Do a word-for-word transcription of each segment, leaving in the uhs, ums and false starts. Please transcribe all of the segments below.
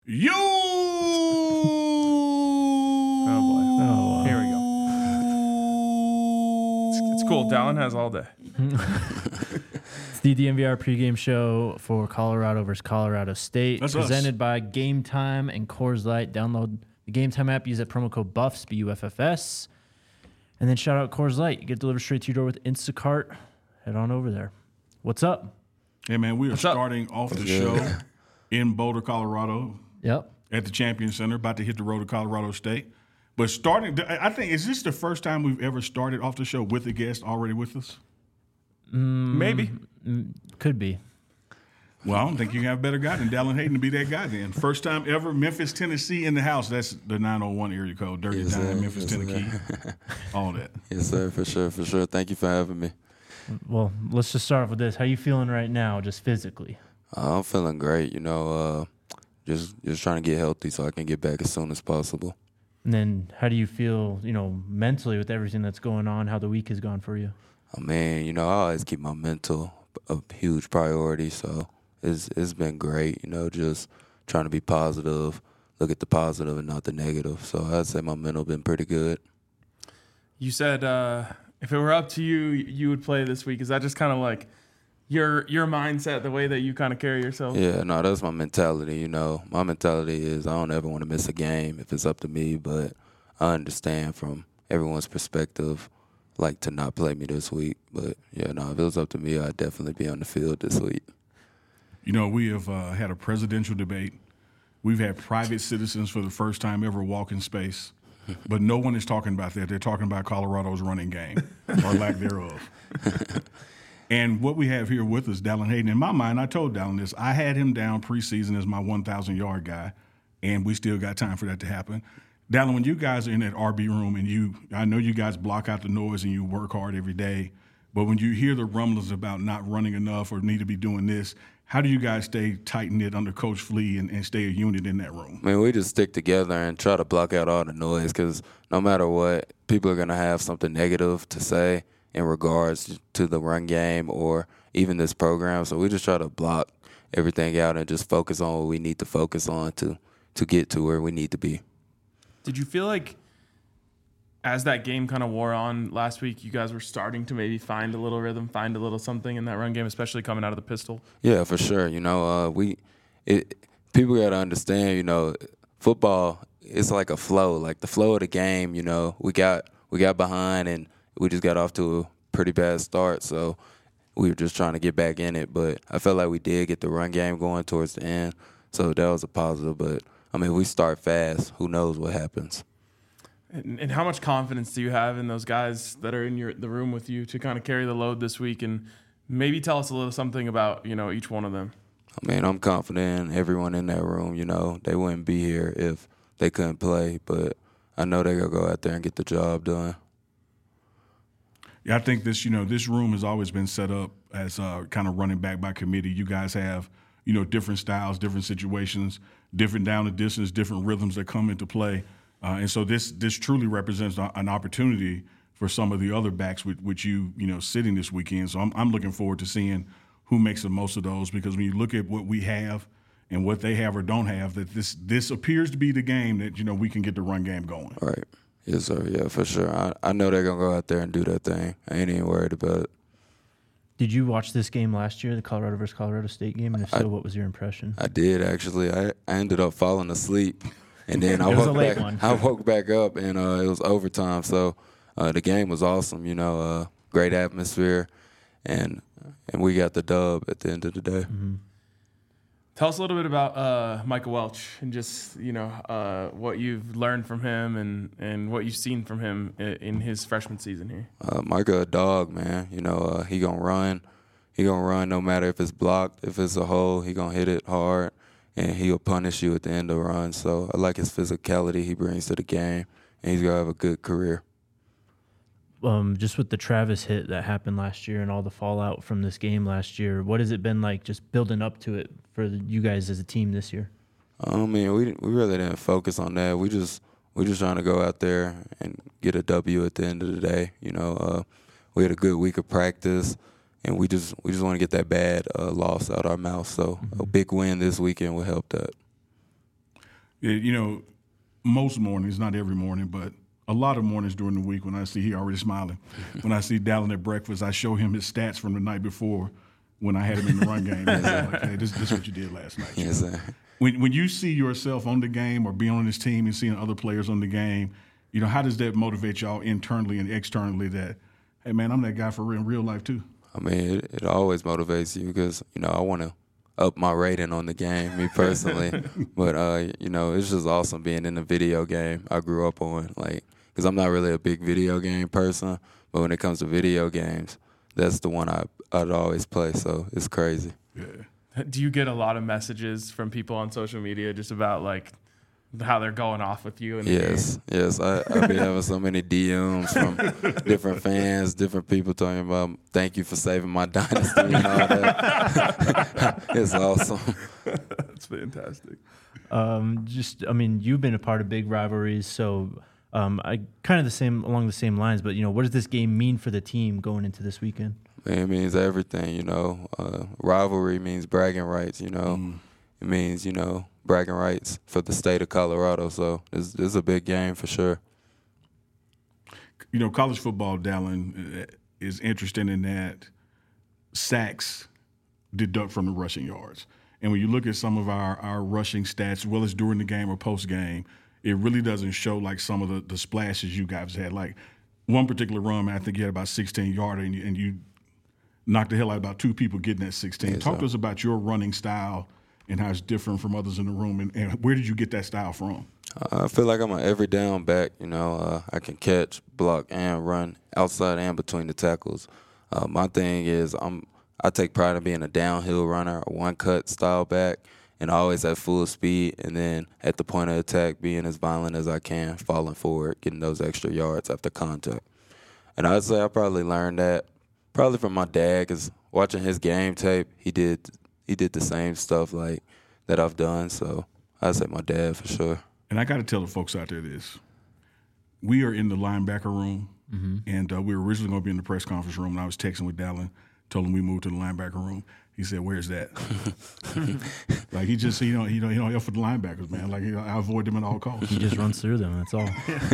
You. Oh boy. Oh, here we go. It's, it's cool. Dallin has all day. It's the D N V R pregame show for Colorado versus Colorado State, That's presented us. by Game Time and Coors Light. Download the Game Time app. Use that promo code BUFFS, B U F F S. And then shout out Coors Light. You get delivered straight to your door with Instacart. Head on over there. What's up? Hey, man, we are What's up? starting off the Yeah. show in Boulder, Colorado, Yep. at the Champion Center, about to hit the road to Colorado State. But starting, I think, is this the first time we've ever started off the show with a guest already with us? Maybe. Could be. Well, I don't think you can have a better guy than Dallin Hayden to be that guy then. First time ever, Memphis, Tennessee in the house. That's the nine oh one area code, Dirty Yes, Dime, sir. Memphis, Yes, Tennessee, sir. all that. Yes, sir, for sure, for sure. Thank you for having me. Well, let's just start off with this. How you feeling right now, just physically? Uh, I'm feeling great, you know, uh, just just trying to get healthy so I can get back as soon as possible. And then how do you feel, you know, mentally with everything that's going on, how the week has gone for you? I mean, you know, I always keep my mental a huge priority, so it's it's been great, you know, just trying to be positive, look at the positive and not the negative. So I'd say my mental been pretty good. You said uh, if it were up to you, you would play this week. Is that just kind of like your your mindset, the way that you kind of carry yourself? Yeah, no, that's my mentality, you know. My mentality is I don't ever want to miss a game if it's up to me, but I understand from everyone's perspective, like, to not play me this week. But, yeah, no, if it was up to me, I'd definitely be on the field this week. You know, we have uh, had a presidential debate. We've had private citizens for the first time ever walk in space. But no one is talking about that. They're talking about Colorado's running game or lack thereof. And what we have here with us, Dallin Hayden. In my mind, I told Dallin this. I had him down preseason as my one thousand yard guy, and we still got time for that to happen. Dallin, when you guys are in that R B room and you, I know you guys block out the noise and you work hard every day, but when you hear the rumblings about not running enough or need to be doing this, how do you guys stay tight-knit under Coach Flea and, and stay a unit in that room? I mean, we just stick together and try to block out all the noise because no matter what, people are going to have something negative to say in regards to the run game or even this program. So we just try to block everything out and just focus on what we need to focus on to, to get to where we need to be. Did you feel like as that game kind of wore on last week, you guys were starting to maybe find a little rhythm, find a little something in that run game, especially coming out of the pistol? Yeah, for sure. You know, uh, we it people got to understand. You know, football is like a flow, like the flow of the game. You know, we got we got behind and we just got off to a pretty bad start, so we were just trying to get back in it. But I felt like we did get the run game going towards the end, so that was a positive. But I mean, we start fast. Who knows what happens? And, and how much confidence do you have in those guys that are in your the room with you to kind of carry the load this week? And maybe tell us a little something about, you know, each one of them. I mean, I'm confident in everyone in that room. You know, they wouldn't be here if they couldn't play, but I know they're going to go out there and get the job done. Yeah, I think this, you know, this room has always been set up as uh, kind of running back by committee. You guys have, you know, different styles, different situations, different down the distance, different rhythms that come into play. Uh, and so this this truly represents an opportunity for some of the other backs with which you, you know, sitting this weekend. So I'm, I'm looking forward to seeing who makes the most of those, because when you look at what we have and what they have or don't have, that this this appears to be the game that, you know, we can get the run game going. Right. Yes, sir. Yeah, for sure. I, I know they're going to go out there and do that thing. I ain't even worried about it. Did you watch this game last year, the Colorado versus Colorado State game? And if so, I- what was your impression? I did, actually. I, I ended up falling asleep. And then I It was woke a late back. one. I woke back up, and uh, it was overtime. So uh, the game was awesome. You know, uh, great atmosphere, and and we got the dub at the end of the day. Mm-hmm. Tell us a little bit about uh, Michael Welch and just, you know, uh, what you've learned from him and, and what you've seen from him in, in his freshman season here. Uh, Micah a dog, man. You know, uh, he gonna run. He gonna run no matter if it's blocked, if it's a hole. He gonna hit it hard, and he'll punish you at the end of the run. So I like his physicality he brings to the game, and he's gonna have a good career. Um, just with the Travis hit that happened last year and all the fallout from this game last year, what has it been like just building up to it for the, you guys as a team this year? I mean, we we really didn't focus on that. We just we just trying to go out there and get a W at the end of the day. You know, uh, we had a good week of practice, and we just we just want to get that bad uh, loss out our mouth. So Mm-hmm. a big win this weekend will help that. Yeah, you know, most mornings, not every morning, but a lot of mornings during the week when I see he already smiling. When I see Dallin at breakfast, I show him his stats from the night before when I had him in the run game. And I'm like, hey, this, this is what you did last night. Yes, sir. When when you see yourself on the game or being on this team and seeing other players on the game, you know, how does that motivate y'all internally and externally that, hey, man, I'm that guy for real, in real life too? I mean, it, it always motivates you because, you know, I want to up my rating on the game, me personally. But, uh, you know, it's just awesome being in the video game I grew up on. Like, because I'm not really a big video game person, but when it comes to video games, that's the one I, I'd always play. So it's crazy. Yeah. Do you get a lot of messages from people on social media just about like how they're going off with you? In the Yes, game? yes. I, I be having so many D Ms from different fans, different people talking about thank you for saving my dynasty and all that. It's awesome. That's fantastic. Um, just, I mean, you've been a part of big rivalries, so um, I kind of the same along the same lines. But you know, what does this game mean for the team going into this weekend? It means everything, you know. Uh, rivalry means bragging rights, you know. Mm. It means, you know, bragging rights for the state of Colorado. So this, this is a big game for sure. You know, college football, Dallin, is interesting in that sacks deduct from the rushing yards. And when you look at some of our, our rushing stats, well as during the game or post-game, it really doesn't show like some of the, the splashes you guys had. Like one particular run, man, I think you had about sixteen yards and you, and you knocked the hell out of about two people getting that sixteen. Yeah, Talk so. to us about your running style and how it's different from others in the room, and, and where did you get that style from? Uh, I feel like I'm an every down back. You know, uh, I can catch, block, and run outside and between the tackles. Uh, my thing is I'm I take pride in being a downhill runner, a one-cut style back, and always at full speed, and then at the point of attack being as violent as I can, falling forward, getting those extra yards after contact. And I'd say I probably learned that probably from my dad, because watching his game tape, he did – he did the same stuff like that I've done. So I'd say my dad for sure. And I got to tell the folks out there this. We are in the linebacker room, mm-hmm. and uh, we were originally going to be in the press conference room, and I was texting with Dallin, told him we moved to the linebacker room. He said, "Where's that?" Like he just, you know, he don't, he don't help for the linebackers, man. Like I avoid them at all costs. He just runs through them. That's all.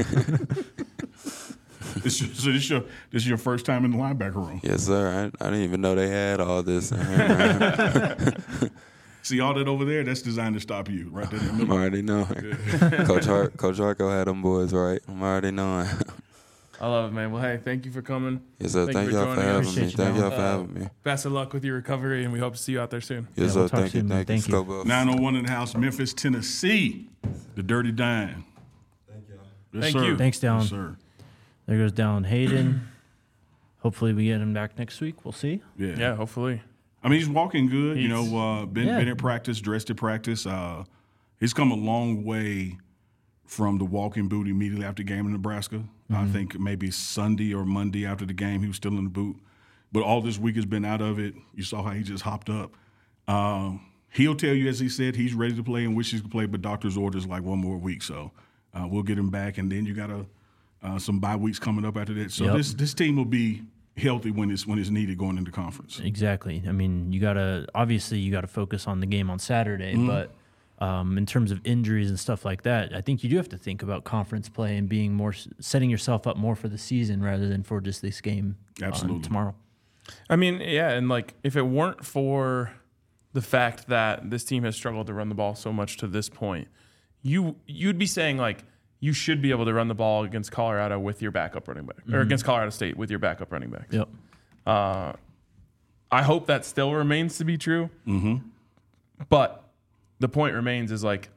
This, so this is your this is your first time in the linebacker room. Yes, sir. I, I didn't even know they had all this. In here, See all that over there? That's designed to stop you, right there in the I'm middle. already knowing. Yeah. Coach Hart, Coach Harko had them boys right. I'm already knowing. I love it, man. Well, hey, thank you for coming. Yes, sir. Thank, thank y'all for having us. me. Thank y'all for uh, having me. Best of luck with your recovery, and we hope to see you out there soon. Yes, yeah, sir. We'll thank, you, soon, thank, thank you. Thank you. nine oh one in the house, Memphis, Tennessee. The Dirty Dime. Thank y'all. Yes, thank sir. you. Thanks, Dallin. Yes, sir. There goes Dallin Hayden. Hopefully we get him back next week. We'll see. Yeah. Yeah, hopefully. I mean, he's walking good. He's, you know, uh, been, yeah. been at practice, dressed at practice. Uh, he's come a long way from the walking boot immediately after the game in Nebraska. Mm-hmm. I think maybe Sunday or Monday after the game, he was still in the boot. But all this week has been out of it. You saw how he just hopped up. Um, he'll tell you, as he said, he's ready to play and wishes he could play, but doctor's orders like one more week. So uh, we'll get him back, and then you got a, uh, some bye weeks coming up after that. So Yep. this this team will be healthy when it's when it's needed going into conference. Exactly. I mean, you gotta obviously you gotta focus on the game on Saturday, Mm-hmm. but um, in terms of injuries and stuff like that, I think you do have to think about conference play and being more setting yourself up more for the season rather than for just this game Absolutely. on tomorrow. I mean, yeah, and like if it weren't for the fact that this team has struggled to run the ball so much to this point, you you'd be saying like you should be able to run the ball against Colorado with your backup running back, mm-hmm. or against Colorado State with your backup running back. Yep. Uh, I hope that still remains to be true. Mm-hmm. But the point remains is like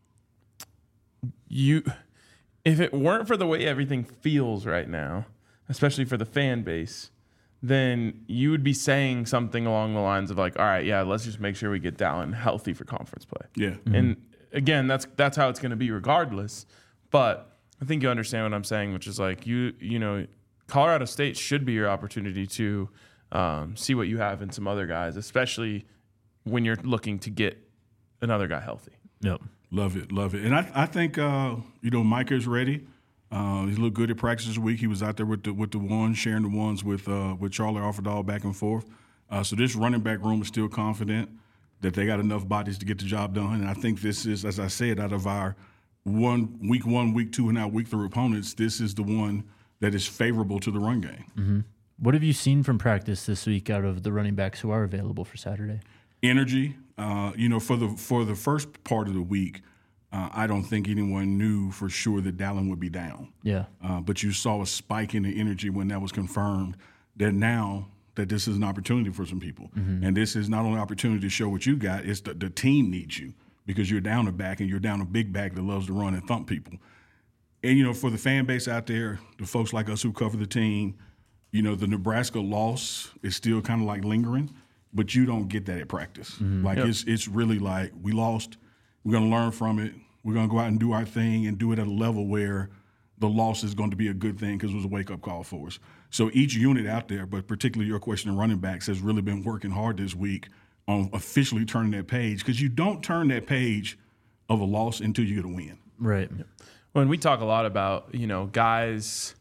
you, if it weren't for the way everything feels right now, especially for the fan base, then you would be saying something along the lines of like, all right, yeah, let's just make sure we get Dallin healthy for conference play. Yeah. Mm-hmm. And again, that's that's how it's going to be regardless. But I think you understand what I'm saying, which is like you you know, Colorado State should be your opportunity to um, see what you have in some other guys, especially when you're looking to get another guy healthy. Yep. Love it, love it. And I, I think, uh, you know, Micah is ready. Uh, he looked good at practice this week. He was out there with the with the ones, sharing the ones with uh, with Charlie Offerdahl back and forth. Uh, so this running back room is still confident. that they got enough bodies to get the job done. And I think this is, as I said, out of our one week one, week two, and now week three opponents, this is the one that is favorable to the run game. Mm-hmm. What have you seen from practice this week out of the running backs who are available for Saturday? Energy. Uh, you know, for the for the first part of the week, uh, I don't think anyone knew for sure that Dallin would be down. Yeah. Uh, but you saw a spike in the energy when that was confirmed. That now that this is an opportunity for some people, mm-hmm. and this is not only an opportunity to show what you got, it's the, the team needs you because you're down a back and you're down a big back that loves to run and thump people. And you know, for the fan base out there, the folks like us who cover the team, you know, the Nebraska loss is still kind of like lingering. But you don't get that at practice. Mm-hmm. Like, yep. it's it's really like we lost. We're going to learn from it. We're going to go out and do our thing and do it at a level where the loss is going to be a good thing because it was a wake-up call for us. So each unit out there, but particularly your question of running backs, has really been working hard this week on officially turning that page because you don't turn that page of a loss until you get a win. Right. When we talk a lot about, you know, guys,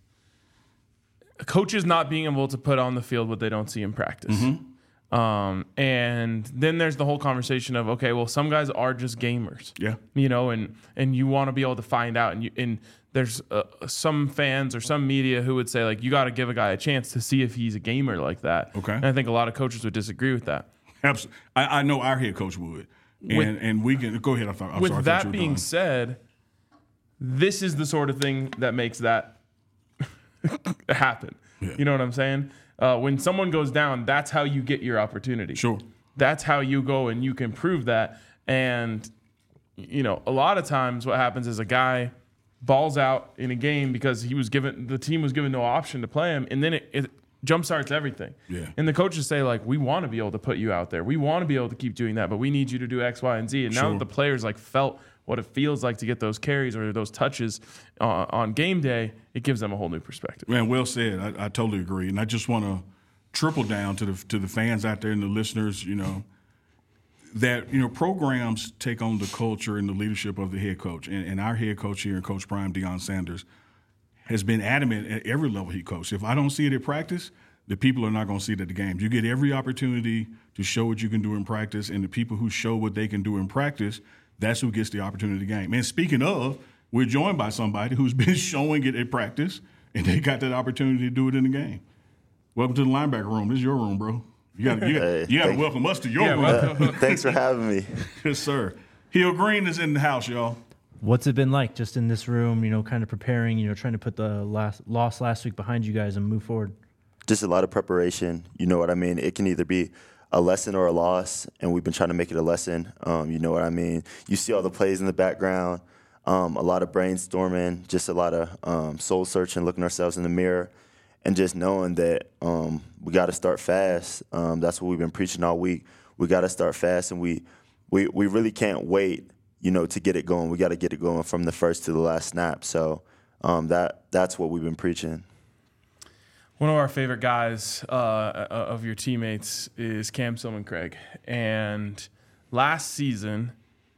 coaches not being able to put on the field what they don't see in practice. Mm-hmm. Um, and then there's the whole conversation of, okay, well, some guys are just gamers, yeah, you know, and, and you want to be able to find out. And you, and there's uh, some fans or some media who would say, like, you got to give a guy a chance to see if he's a gamer like that. Okay. And I think a lot of coaches would disagree with that. Absolutely. I, I know our head coach would. And, with, and we can go ahead. I thought, I'm with sorry, that I being done. said, this is the sort of thing that makes that happen. Yeah. You know what I'm saying? Uh, when someone goes down, that's how you get your opportunity. Sure. That's how you go and you can prove that. And, you know, a lot of times what happens is a guy balls out in a game because he was given, the team was given no option to play him, and then it, it jumpstarts everything. Yeah. And the coaches say, like, we want to be able to put you out there. We want to be able to keep doing that, but we need you to do X, Y, and Z. And sure. now that the players, like, felt what it feels like to get those carries or those touches uh, on game day, it gives them a whole new perspective. Man, well said. I, I totally agree. And I just want to triple down to the to the fans out there and the listeners, you know, that, you know, programs take on the culture and the leadership of the head coach. And, and our head coach here, Coach Prime, Deion Sanders, has been adamant at every level he coached. If I don't see it at practice, the people are not going to see it at the games. You get every opportunity to show what you can do in practice, and the people who show what they can do in practice, that's who gets the opportunity to game. And speaking of, we're joined by somebody who's been showing it at practice, and they got that opportunity to do it in the game. Welcome to the linebacker room. This is your room, bro. You got you hey, to hey, welcome us to your yeah, room. Uh, thanks for having me. Yes, sir. Hill Green is in the house, y'all. What's it been like just in this room, you know, kind of preparing, you know, trying to put the last loss last week behind you guys and move forward? Just a lot of preparation. You know what I mean? It can either be a lesson or a loss, and we've been trying to make it a lesson. Um, you know what I mean? You see all the plays in the background, um, a lot of brainstorming, just a lot of um, soul searching, looking ourselves in the mirror, and just knowing that um, we got to start fast. Um, that's what we've been preaching all week. We got to start fast, and we, we we really can't wait, you know, to get it going. We got to get it going from the first to the last snap. So um, that that's what we've been preaching. One of our favorite guys uh, of your teammates is Cam Silman-Craig. And last season,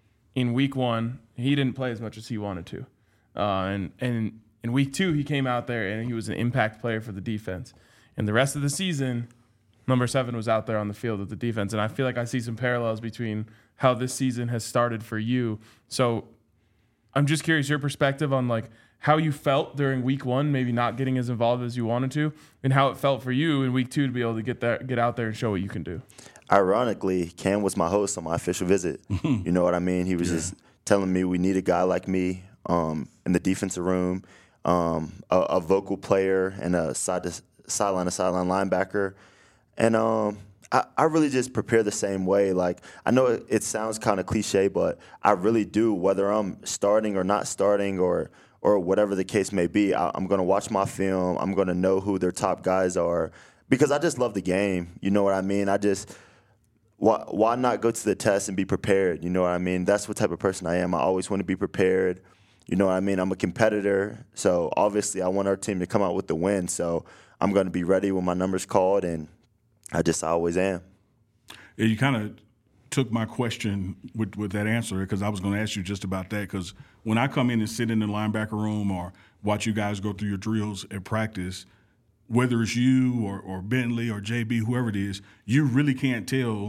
in week one, he didn't play as much as he wanted to. Uh, and, and in week two, he came out there and he was an impact player for the defense. And the rest of the season, number seven was out there on the field with the defense. And I feel like I see some parallels between how this season has started for you. So I'm just curious your perspective on, like, how you felt during week one, maybe not getting as involved as you wanted to, and how it felt for you in week two to be able to get there, get out there and show what you can do. Ironically, Cam was my host on my official visit. You know what I mean? He was yeah. just telling me we need a guy like me um, in the defensive room, um, a, a vocal player and a side to sideline to sideline linebacker. And um, I, I really just prepare the same way. Like, I know it, it sounds kind of cliche, but I really do, whether I'm starting or not starting or or whatever the case may be. I, I'm going to watch my film. I'm going to know who their top guys are because I just love the game. You know what I mean? I just why, why not go to the test and be prepared? You know what I mean? That's what type of person I am. I always want to be prepared. You know what I mean? I'm a competitor, so obviously I want our team to come out with the win. So I'm going to be ready when my number's called, and I just always am. Yeah, you kind of took my question with, with that answer because I was going to ask you just about that because when I come in and sit in the linebacker room or watch you guys go through your drills at practice, whether it's you or, or Bentley or J B, whoever it is, you really can't tell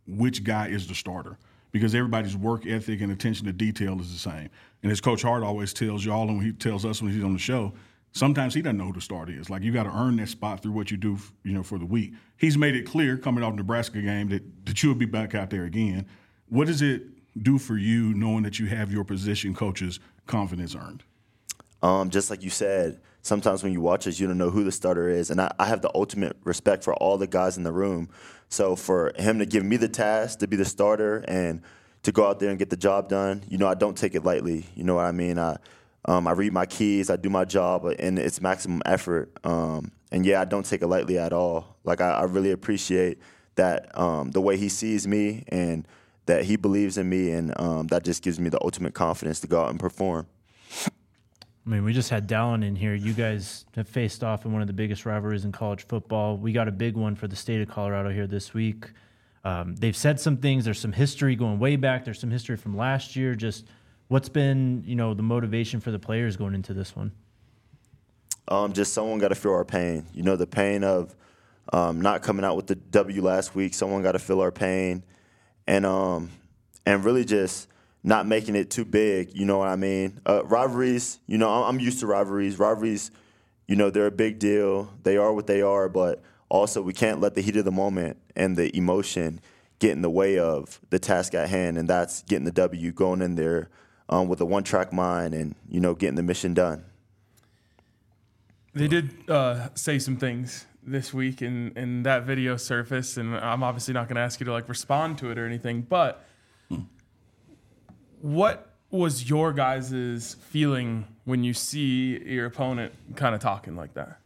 which guy is the starter because everybody's work ethic and attention to detail is the same. And as Coach Hart always tells y'all and he tells us when he's on the show, sometimes he doesn't know who the starter is. Like, you got to earn that spot through what you do, you know, for the week. He's made it clear coming off the Nebraska game that, that you'll be back out there again. What does it do for you knowing that you have your position coach's confidence earned? Um, just like you said, sometimes when you watch us, you don't know who the starter is. And I, I have the ultimate respect for all the guys in the room. So for him to give me the task to be the starter and to go out there and get the job done, you know, I don't take it lightly. You know what I mean? I um, I read my keys, I do my job, and it's maximum effort. Um, and, yeah, I don't take it lightly at all. Like, I, I really appreciate that um, the way he sees me and that he believes in me, and um, that just gives me the ultimate confidence to go out and perform. I mean, we just had Dallin in here. You guys have faced off in one of the biggest rivalries in college football. We got a big one for the state of Colorado here this week. Um, they've said some things. There's some history going way back. There's some history from last year. Just what's been, you know, the motivation for the players going into this one? Um, just someone got to feel our pain. You know, the pain of um, not coming out with the W last week. Someone got to feel our pain, and um, and really just not making it too big, you know what I mean? Uh, rivalries, you know, I'm used to rivalries. Rivalries, you know, they're a big deal. They are what they are, but also we can't let the heat of the moment and the emotion get in the way of the task at hand, and that's getting the W, going in there um, with a one-track mind and, you know, getting the mission done. They did uh, say some things this week, and, and that video surfaced, and I'm obviously not going to ask you to, like, respond to it or anything, but hmm. what was your guys' feeling when you see your opponent kind of talking like that?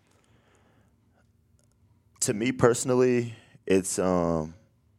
To me personally, it's um,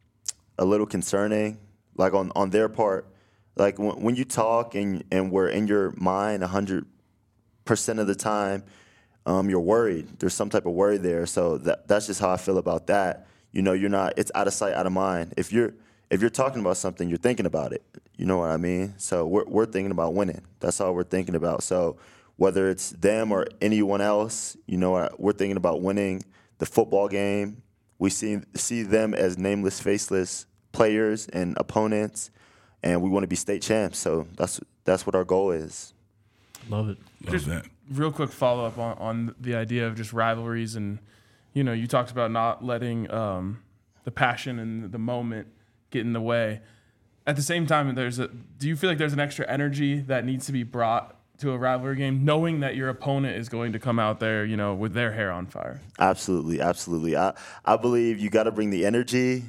a little concerning, like on, on their part. Like when, when you talk and, and we're in your mind one hundred percent of the time, um, you're worried. There's some type of worry there. So that, that's just how I feel about that. You know, you're not, it's out of sight, out of mind. If you're if you're talking about something, you're thinking about it. You know what I mean? So we're we're thinking about winning. That's all we're thinking about. So whether it's them or anyone else, you know, we're thinking about winning the football game. We see see them as nameless, faceless players and opponents, and we want to be state champs. So that's that's what our goal is. Love it. Love just that. Real quick follow up on, on the idea of just rivalries, and you know, you talked about not letting um, the passion and the moment get in the way. At the same time, there's a. Do you feel like there's an extra energy that needs to be brought to a rivalry game, knowing that your opponent is going to come out there, you know, with their hair on fire? Absolutely, absolutely. I I believe you got to bring the energy,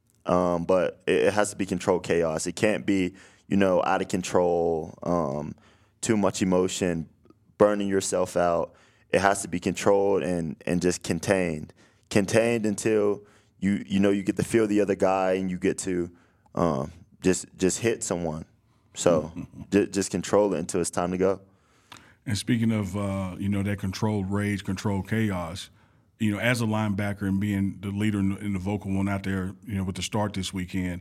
um, but it, it has to be controlled chaos. It can't be, you know, out of control, um, too much emotion, burning yourself out. It has to be controlled and and just contained, contained until you you know you get to feel the other guy and you get to um, just just hit someone. So j- just control it until it's time to go. And speaking of, uh, you know, that controlled rage, controlled chaos, you know, as a linebacker and being the leader in the, in the vocal one out there, you know, with the start this weekend,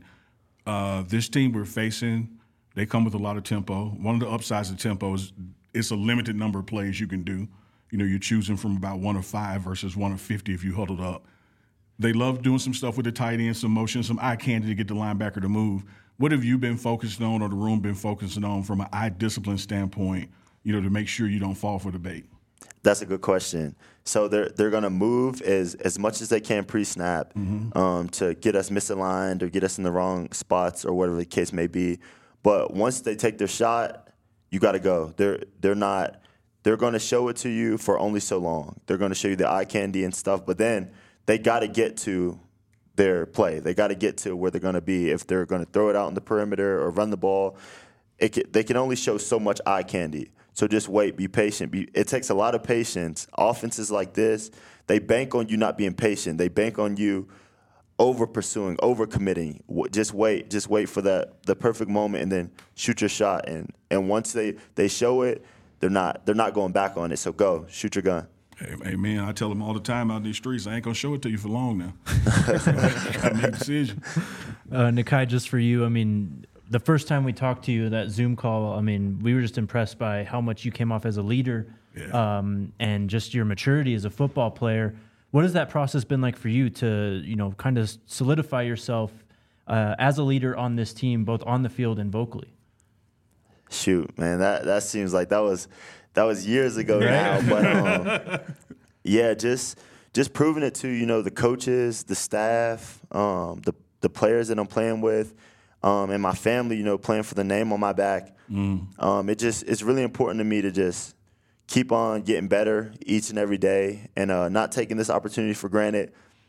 uh, this team we're facing, they come with a lot of tempo. One of the upsides of tempo is it's a limited number of plays you can do. You know, you're choosing from about one of five versus one of fifty if you huddled up. They love doing some stuff with the tight end, some motion, some eye candy to get the linebacker to move. What have you been focused on or the room been focusing on from an eye discipline standpoint, you know, to make sure you don't fall for the bait? That's a good question. So they're they're gonna move as as much as they can pre-snap mm-hmm. um, to get us misaligned or get us in the wrong spots or whatever the case may be. But once they take their shot, you got to go. They're they're not. They're gonna show it to you for only so long. They're gonna show you the eye candy and stuff, but then they got to get to their play. They got to get to where they're going to be. If they're going to throw it out in the perimeter or run the ball, it can, they can only show so much eye candy. So just wait, be patient. Be, it takes a lot of patience. Offenses like this, they bank on you not being patient. They bank on you over pursuing, over committing. Just wait, just wait for that the perfect moment and then shoot your shot. And and once they, they show it, they're not they're not going back on it. So go, shoot your gun. Hey, hey, man, I tell them all the time out in these streets, I ain't going to show it to you for long now. Got to make a decision. Uh, Nakai, just for you, I mean, the first time we talked to you, that Zoom call, I mean, we were just impressed by how much you came off as a leader yeah. um, and just your maturity as a football player. What has that process been like for you to, you know, kind of solidify yourself uh, as a leader on this team, both on the field and vocally? Shoot, man, that that seems like that was that was years ago now. But um, yeah, just just proving it to you know the coaches, the staff, um, the the players that I'm playing with, um, and my family. You know, playing for the name on my back. Mm. Um, it just it's really important to me to just keep on getting better each and every day, and uh, not taking this opportunity for granted.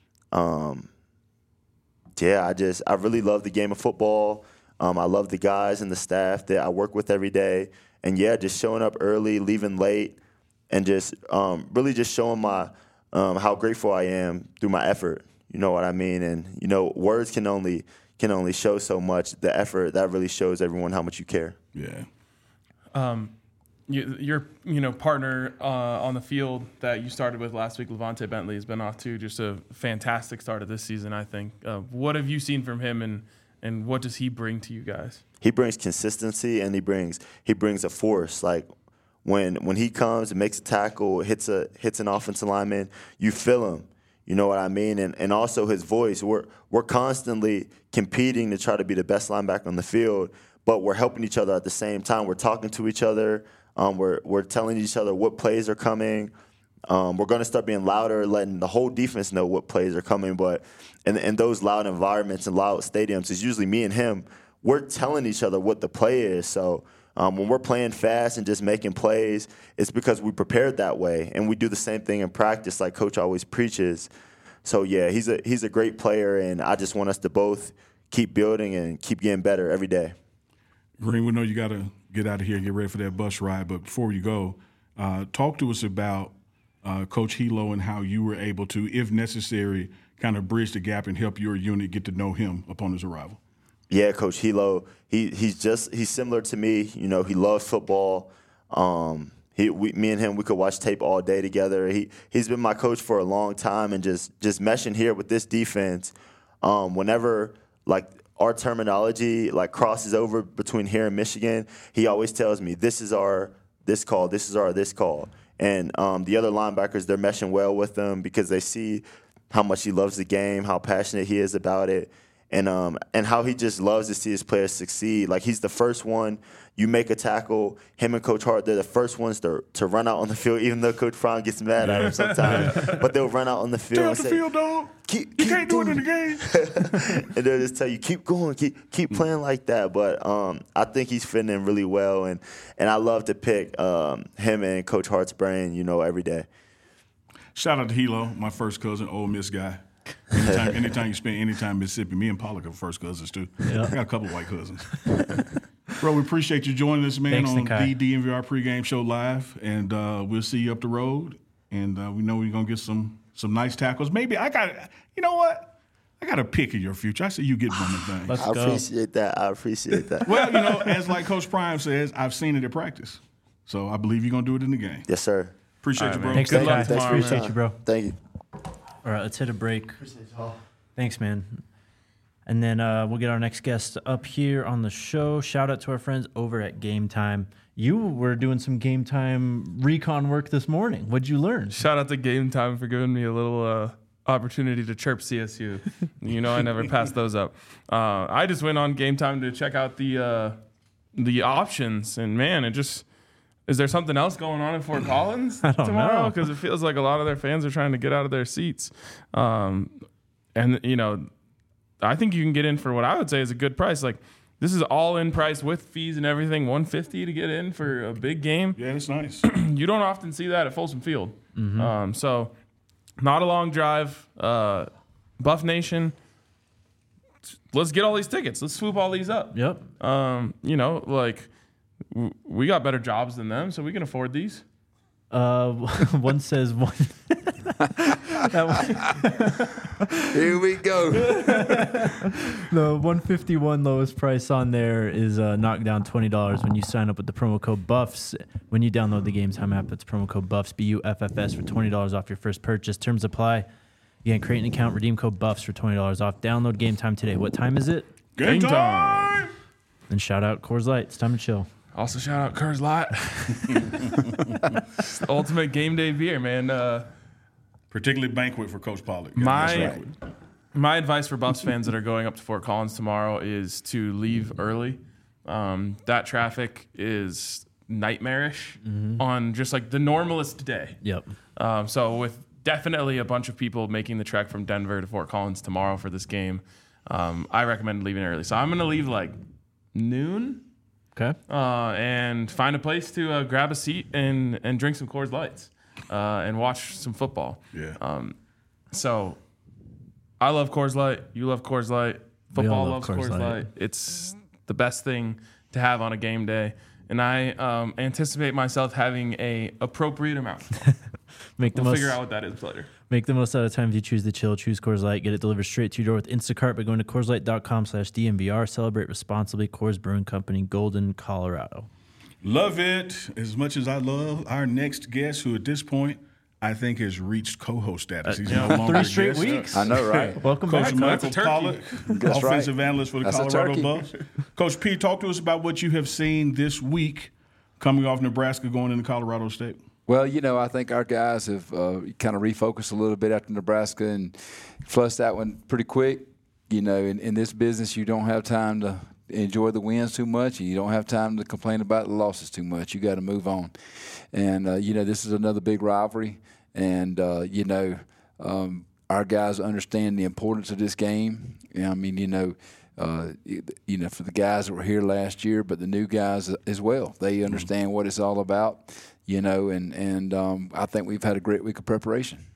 Um, yeah, I just I really love the game of football. Um, I love the guys and the staff that I work with every day. And, yeah, just showing up early, leaving late, and just um, really just showing my um, how grateful I am through my effort. You know what I mean? And, you know, words can only can only show so much. The effort, that really shows everyone how much you care. Yeah. Um, you, your you know partner uh, on the field that you started with last week, Levante Bentley, has been off to just a fantastic start of this season, I think. Uh, what have you seen from him, and And what does he bring to you guys? He brings consistency, and he brings he brings a force. Like when when he comes and makes a tackle, hits a hits an offensive lineman, you feel him. You know what I mean? And and also his voice. We're we're constantly competing to try to be the best linebacker on the field, but we're helping each other at the same time. We're talking to each other. Um, we're we're telling each other what plays are coming. Um, we're going to start being louder, letting the whole defense know what plays are coming. But in, in those loud environments and loud stadiums, it's usually me and him. We're telling each other what the play is. So um, when we're playing fast and just making plays, it's because we prepared that way. And we do the same thing in practice like Coach always preaches. So, yeah, he's a, he's a great player, and I just want us to both keep building and keep getting better every day. Green, we know you got to get out of here and get ready for that bus ride. But before you go, uh, talk to us about Uh, Coach Hilo and how you were able to, if necessary, kind of bridge the gap and help your unit get to know him upon his arrival. Yeah, Coach Hilo, he he's just he's similar to me. You know, he loves football. Um, he we, me and him, we could watch tape all day together. He he's been my coach for a long time, and just just meshing here with this defense. Um, whenever like our terminology like crosses over between here and Michigan, he always tells me this is our this call, this is our this call. And um, the other linebackers, they're meshing well with him because they see how much he loves the game, how passionate he is about it, and um, and how he just loves to see his players succeed. Like, he's the first one. You make a tackle, him and Coach Hart, they're the first ones to to run out on the field, even though Coach Fromm gets mad at him sometimes. But they'll run out on the field Stay and off the say, field, dog. Keep, You keep can't do it in the game. And they'll just tell you, keep going, keep keep playing like that. But um, I think he's fitting in really well, and and I love to pick um, him and Coach Hart's brain, you know, every day. Shout out to Hilo, my first cousin, Ole Miss guy. Anytime, anytime you spend any time in Mississippi, me and Pollock are first cousins too. Yep. I got a couple of white cousins. Bro, we appreciate you joining us, man, Thanks, on Nakai. the D N V R pregame show live, and uh, we'll see you up the road. And uh, we know we're gonna get some some nice tackles. Maybe I got, you know what? I got a pick of your future. I see you get one of things. Let's I go. appreciate that. I appreciate that. Well, you know, as like Coach Prime says, I've seen it at practice, so I believe you're gonna do it in the game. Yes, sir. Appreciate All you, right, bro. man. Thanks, Good Nakai. luck tomorrow, Appreciate man. you, bro. Thank you. All right, let's hit a break. Thanks, man. And then uh, we'll get our next guest up here on the show. Shout out to our friends over at Game Time. You were doing some Game Time recon work this morning. What'd you learn? Shout out to Game Time for giving me a little uh, opportunity to chirp C S U. You know, I never pass those up. Uh, I just went on Game Time to check out the uh, the options, and man, it just is there something else going on in Fort Collins I don't tomorrow? know. Because it feels like a lot of their fans are trying to get out of their seats, um, and you know, I think you can get in for what I would say is a good price. Like, this is all in price with fees and everything, one hundred fifty dollars to get in for a big game. Yeah, it's nice. You don't often see that at Folsom Field. Mm-hmm. Um, so, not a long drive. Uh, Buff Nation, let's get all these tickets. Let's swoop all these up. Yep. Um, you know, like, w- we got better jobs than them, so we can afford these. Uh, one says one. that one, Here we go. the one fifty-one lowest price on there is uh, knocked down twenty dollars when you sign up with the promo code BUFFS. When you download the Game Time app, it's promo code BUFFS, B U F F S, for twenty dollars off your first purchase. Terms apply. Again, create an account, redeem code BUFFS for twenty dollars off. Download Game Time today. What time is it? Game Game time. And shout out Coors Light. It's time to chill. Also, shout out Coors Light. Ultimate game day beer, man. Uh, Particularly banquet for Coach Pollock. Yeah, My- that's right. My advice for Buffs fans that are going up to Fort Collins tomorrow is to leave early. Um, that traffic is nightmarish mm-hmm. on just like the normalest day. Yep. Um, so with definitely a bunch of people making the trek from Denver to Fort Collins tomorrow for this game, um, I recommend leaving early. So I'm going to leave like noon. Okay. Uh, and find a place to uh, grab a seat and, and drink some Coors Lights uh, and watch some football. Yeah. Um, so I love Coors Light. You love Coors Light. Football love loves Coors Coors Light. Light. It's the best thing to have on a game day. And I um, anticipate myself having a appropriate amount. Make the We'll most, figure out what that is later. Make the most out of the time if you choose the chill. Choose Coors Light. Get it delivered straight to your door with Instacart by going to Coors Light dot com slash D M V R. Celebrate responsibly. Coors Brewing Company, Golden, Colorado. Love it as much as I love our next guest, who at this point I think has reached co-host status. He's Uh, no longer three a straight guest. weeks. I know, right? Welcome Coach back. Michael turkey. Pollock, That's offensive right. analyst for the That's a Colorado turkey. Buffs. Coach P, talk to us about what you have seen this week coming off Nebraska going into Colorado State. Well, you know, I think our guys have uh, kind of refocused a little bit after Nebraska and flushed that one pretty quick. You know, in, in this business, you don't have time to enjoy the wins too much, and you don't have time to complain about the losses too much. You got to move on. And, uh, you know, this is another big rivalry. And, uh, you know, um, our guys understand the importance of this game. Yeah, I mean, you know, uh, you know, for the guys that were here last year, but the new guys as well, they understand what it's all about, you know, and, and um, I think we've had a great week of preparation.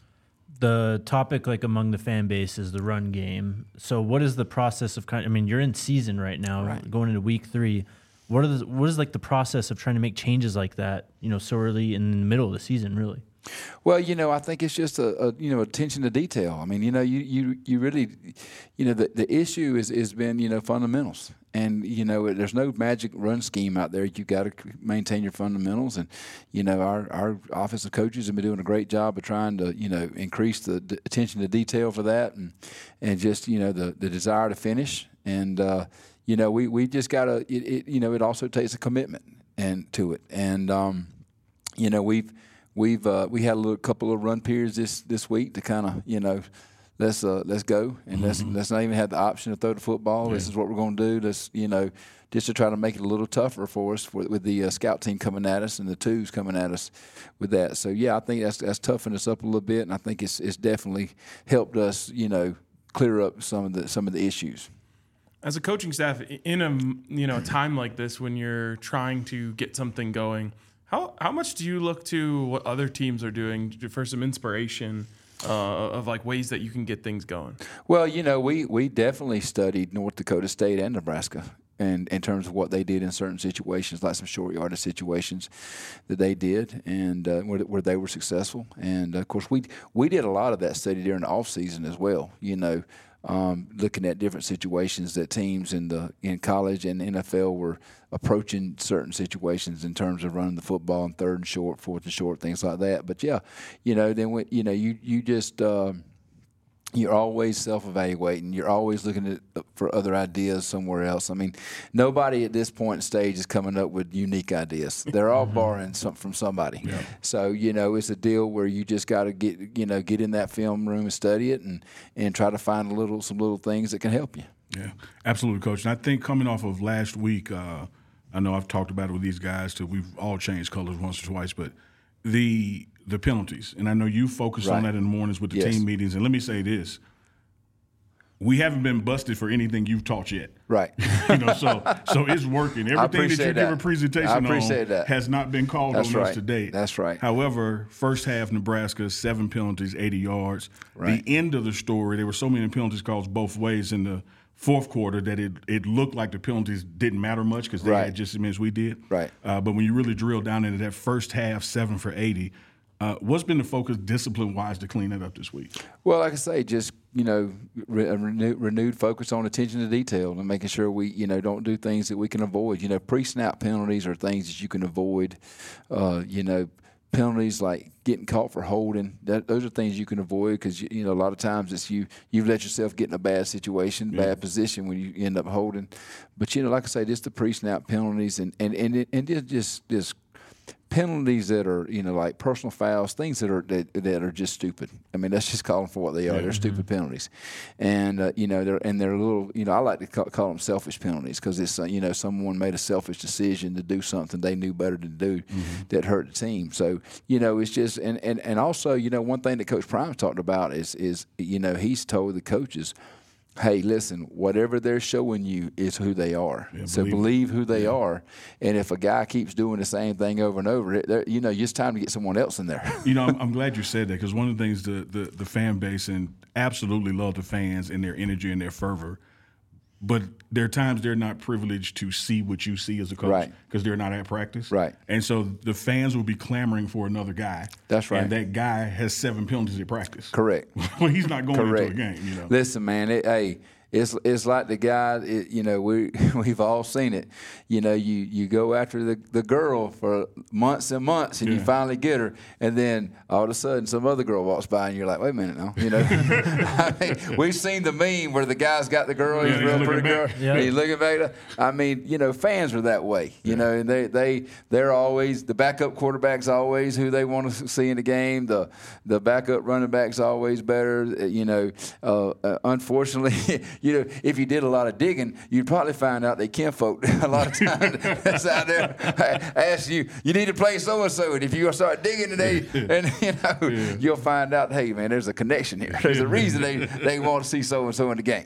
The topic, like among the fan base, is the run game. So, what is the process of kind? I mean, you're in season right now, Right. going into week three. What are the, what is like the process of trying to make changes like that? You know, so early in the middle of the season, really. Well, you know, I think it's just a, a you know attention to detail. I mean, you know, you you, you really, you know, the, the issue is has been you know fundamentals, and you know, there's no magic run scheme out there. You got to maintain your fundamentals, and you know, our our offensive coaches have been doing a great job of trying to you know increase the d- attention to detail for that, and and just you know the the desire to finish, and uh, you know, we we just got to it, it you know it also takes a commitment and to it, and um, you know we've. We've uh, we had a little, couple of run periods this, this week to kind of you know let's uh, let's go and mm-hmm. let's let's not even have the option to throw the football. Yeah. This is what we're going to do. Let's you know just to try to make it a little tougher for us for, with the uh, scout team coming at us and the twos coming at us with that. So yeah, I think that's that's toughened us up a little bit, and I think it's it's definitely helped us you know clear up some of the some of the issues. As a coaching staff, in a you know time like this when you're trying to get something going, how how much do you look to what other teams are doing for some inspiration uh, of like ways that you can get things going? Well, you know, we we definitely studied North Dakota State and Nebraska. And in terms of what they did in certain situations, like some short yardage situations that they did, and uh, where, where they were successful. And of course, we we did a lot of that study during the off season as well. You know, um, looking at different situations that teams in the in college and N F L were approaching certain situations in terms of running the football in third and short, fourth and short, things like that. But yeah, you know, then when, you know you you just. Uh, You're always self-evaluating. You're always looking at, for other ideas somewhere else. I mean, nobody at this point in stage is coming up with unique ideas. They're all mm-hmm. borrowing some, from somebody. Yeah. So, you know, it's a deal where you just got to get, you know, get in that film room and study it and, and try to find a little some little things that can help you. Yeah, absolutely, Coach. And I think coming off of last week, uh, I know I've talked about it with these guys till we've all changed colors once or twice, but the – the penalties, and I know you focus right. on that in the mornings with the yes. team meetings. And let me say this: we haven't been busted for anything you've taught yet. Right. you know, so so it's working. Everything that you that. give a presentation I appreciate on that. has not been called That's on right. us to date. That's right. However, first half Nebraska, seven penalties, eighty yards. Right. The end of the story, there were so many penalties calls both ways in the fourth quarter that it, it looked like the penalties didn't matter much because they right. had just as many as we did. Right. Uh, but when you really drill down into that first half, seven for eighty, Uh, what's been the focus discipline-wise to clean that up this week? Well, like I say, just, you know, re- a renewed, renewed focus on attention to detail and making sure we, you know, don't do things that we can avoid. You know, pre-snap penalties are things that you can avoid. Uh, you know, penalties like getting caught for holding, that, those are things you can avoid because, you, you know, a lot of times it's you, you've let yourself get in a bad situation, yeah. bad position when you end up holding. But, you know, like I say, just the pre-snap penalties and, and, and, it, and it just, just penalties that are, you know, like personal fouls, things that are that, that are just stupid. I mean, let's just call them for what they are. They're stupid penalties, and uh, you know, they're and they're a little, you know, I like to call, call them selfish penalties because it's uh, you know, someone made a selfish decision to do something they knew better to do mm-hmm. that hurt the team. So you know, it's just and, and and also, you know, one thing that Coach Prime talked about is is you know, he's told the coaches, hey, listen, whatever they're showing you is who they are. Yeah, so believe, believe who they yeah. are. And if a guy keeps doing the same thing over and over, it, you know, it's time to get someone else in there. You know, I'm, I'm glad you said that because one of the things the, the, the fan base and absolutely love the fans and their energy and their fervor, but there are times they're not privileged to see what you see as a coach because right. they're not at practice. Right. And so the fans will be clamoring for another guy. That's right. And that guy has seven penalties at practice. Correct. Well, he's not going Correct. into a game, you know. Listen, man, it, hey, It's it's like the guy, it, you know, we, we've all seen it. You know, you, you go after the, the girl for months and months, and yeah. you finally get her, and then all of a sudden some other girl walks by, and you're like, wait a minute now. You know, I mean, we've seen the meme where the guy's got the girl, he's yeah, a real pretty girl, yeah. and he's looking back. I mean, you know, fans are that way. You yeah. know, and they, they, they're always, the backup quarterback's always who they want to see in the game. The the backup running back's always better. You know, uh, uh, unfortunately, you know, if you did a lot of digging, you'd probably find out they kinfolk a lot of times that's out there ask you, you need to play so-and-so, and if you start digging today, and you know, yeah. you'll find out, hey, man, there's a connection here. There's a reason they, they want to see so-and-so in the game.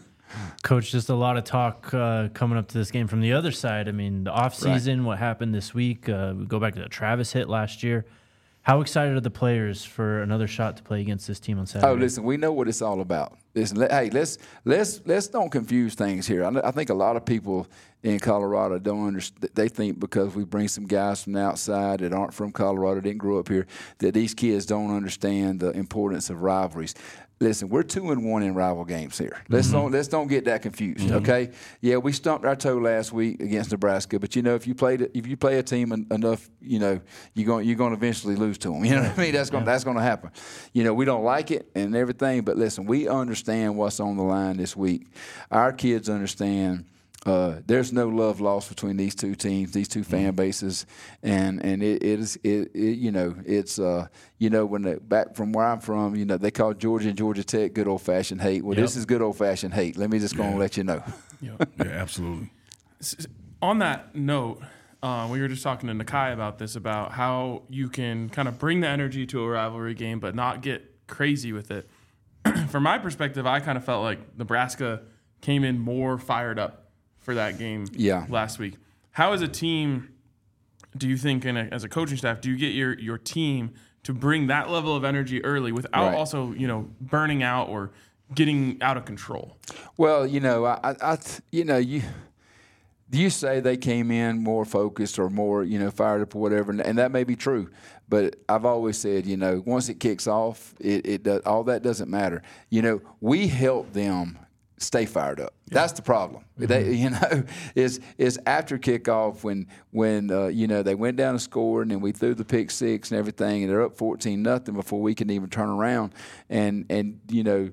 Coach, just a lot of talk uh, coming up to this game from the other side. I mean, the offseason, right. what happened this week, uh, we go back to the Travis hit last year. How excited are the players for another shot to play against this team on Saturday? Oh, listen, we know what it's all about. Listen, let, hey, let's let's let's don't confuse things here. I, I think a lot of people in Colorado don't understand. They think because we bring some guys from the outside that aren't from Colorado, didn't grow up here, that these kids don't understand the importance of rivalries. Listen, we're two and one in rival games here. Let's mm-hmm. don't let's don't get that confused. Mm-hmm. Okay, yeah, we stumped our toe last week against Nebraska, but you know, if you played if you play a team en- enough, you know, you're going you're going to eventually lose to them. You know what I mean? That's going yeah. that's going to happen. You know, we don't like it and everything, but listen, we understand what's on the line this week. Our kids understand. Uh, there's no love lost between these two teams, these two fan bases, and and it, it is it, it you know it's uh you know when the, back from where I'm from, you know, they call Georgia and Georgia Tech good old fashioned hate. Well, yep. this is good old fashioned hate. Let me just go yeah. and let you know. Yep. Yeah, absolutely. On that note, uh, we were just talking to Nakai about this, about how you can kind of bring the energy to a rivalry game, but not get crazy with it. From my perspective, I kind of felt like Nebraska came in more fired up for that game yeah. last week. How, as a team, do you think, and as a coaching staff, do you get your, your team to bring that level of energy early without right. also, you know, burning out or getting out of control? Well, you know, I, I you know, you you say they came in more focused or more, you know, fired up or whatever, and, and that may be true. But I've always said, you know, once it kicks off, it, it does, all that doesn't matter. You know, we help them stay fired up. Yeah. That's the problem. Mm-hmm. They, you know, is is after kickoff when when uh, you know, they went down and scored, and then we threw the pick six and everything, and they're up fourteen nothing before we can even turn around, and and you know,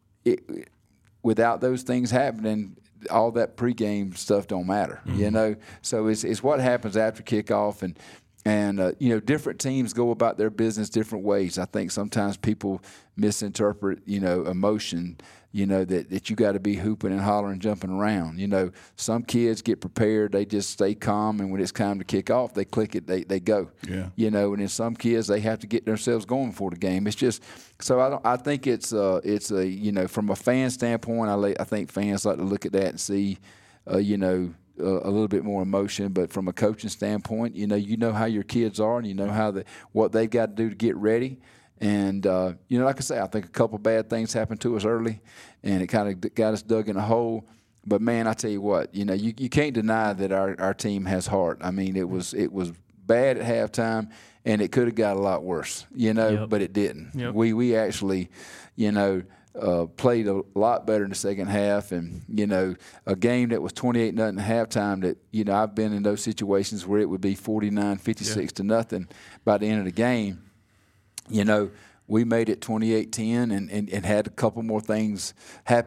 it, without those things happening, all that pregame stuff don't matter. Mm-hmm. You know, so it's it's what happens after kickoff, and. And, uh, you know, different teams go about their business different ways. I think sometimes people misinterpret, you know, emotion, you know, that, that you got to be hooping and hollering, jumping around. You know, some kids get prepared. They just stay calm. And when it's time to kick off, they click it, they, they go. Yeah. You know, and then some kids, they have to get themselves going for the game. It's just so I don't. I think it's, uh, it's a, you know, from a fan standpoint, I, lay, I think fans like to look at that and see, uh, you know, Uh, a little bit more emotion, but from a coaching standpoint, you know, you know how your kids are, and you know how the what they've got to do to get ready. And uh, you know, like I say, I think a couple bad things happened to us early, and it kind of got us dug in a hole. But man, I tell you what, you know, you, you can't deny that our, our team has heart. I mean, it was it was bad at halftime, and it could have got a lot worse, you know, yep. but it didn't. Yep. We we actually, you know. Uh, played a lot better in the second half, and you know, a game that was twenty-eight nothing at halftime. That you know, I've been in those situations where it would be forty-nine, fifty-six yeah. to nothing by the end of the game. You know, we made it twenty-eight ten, and, and, and had a couple more things happen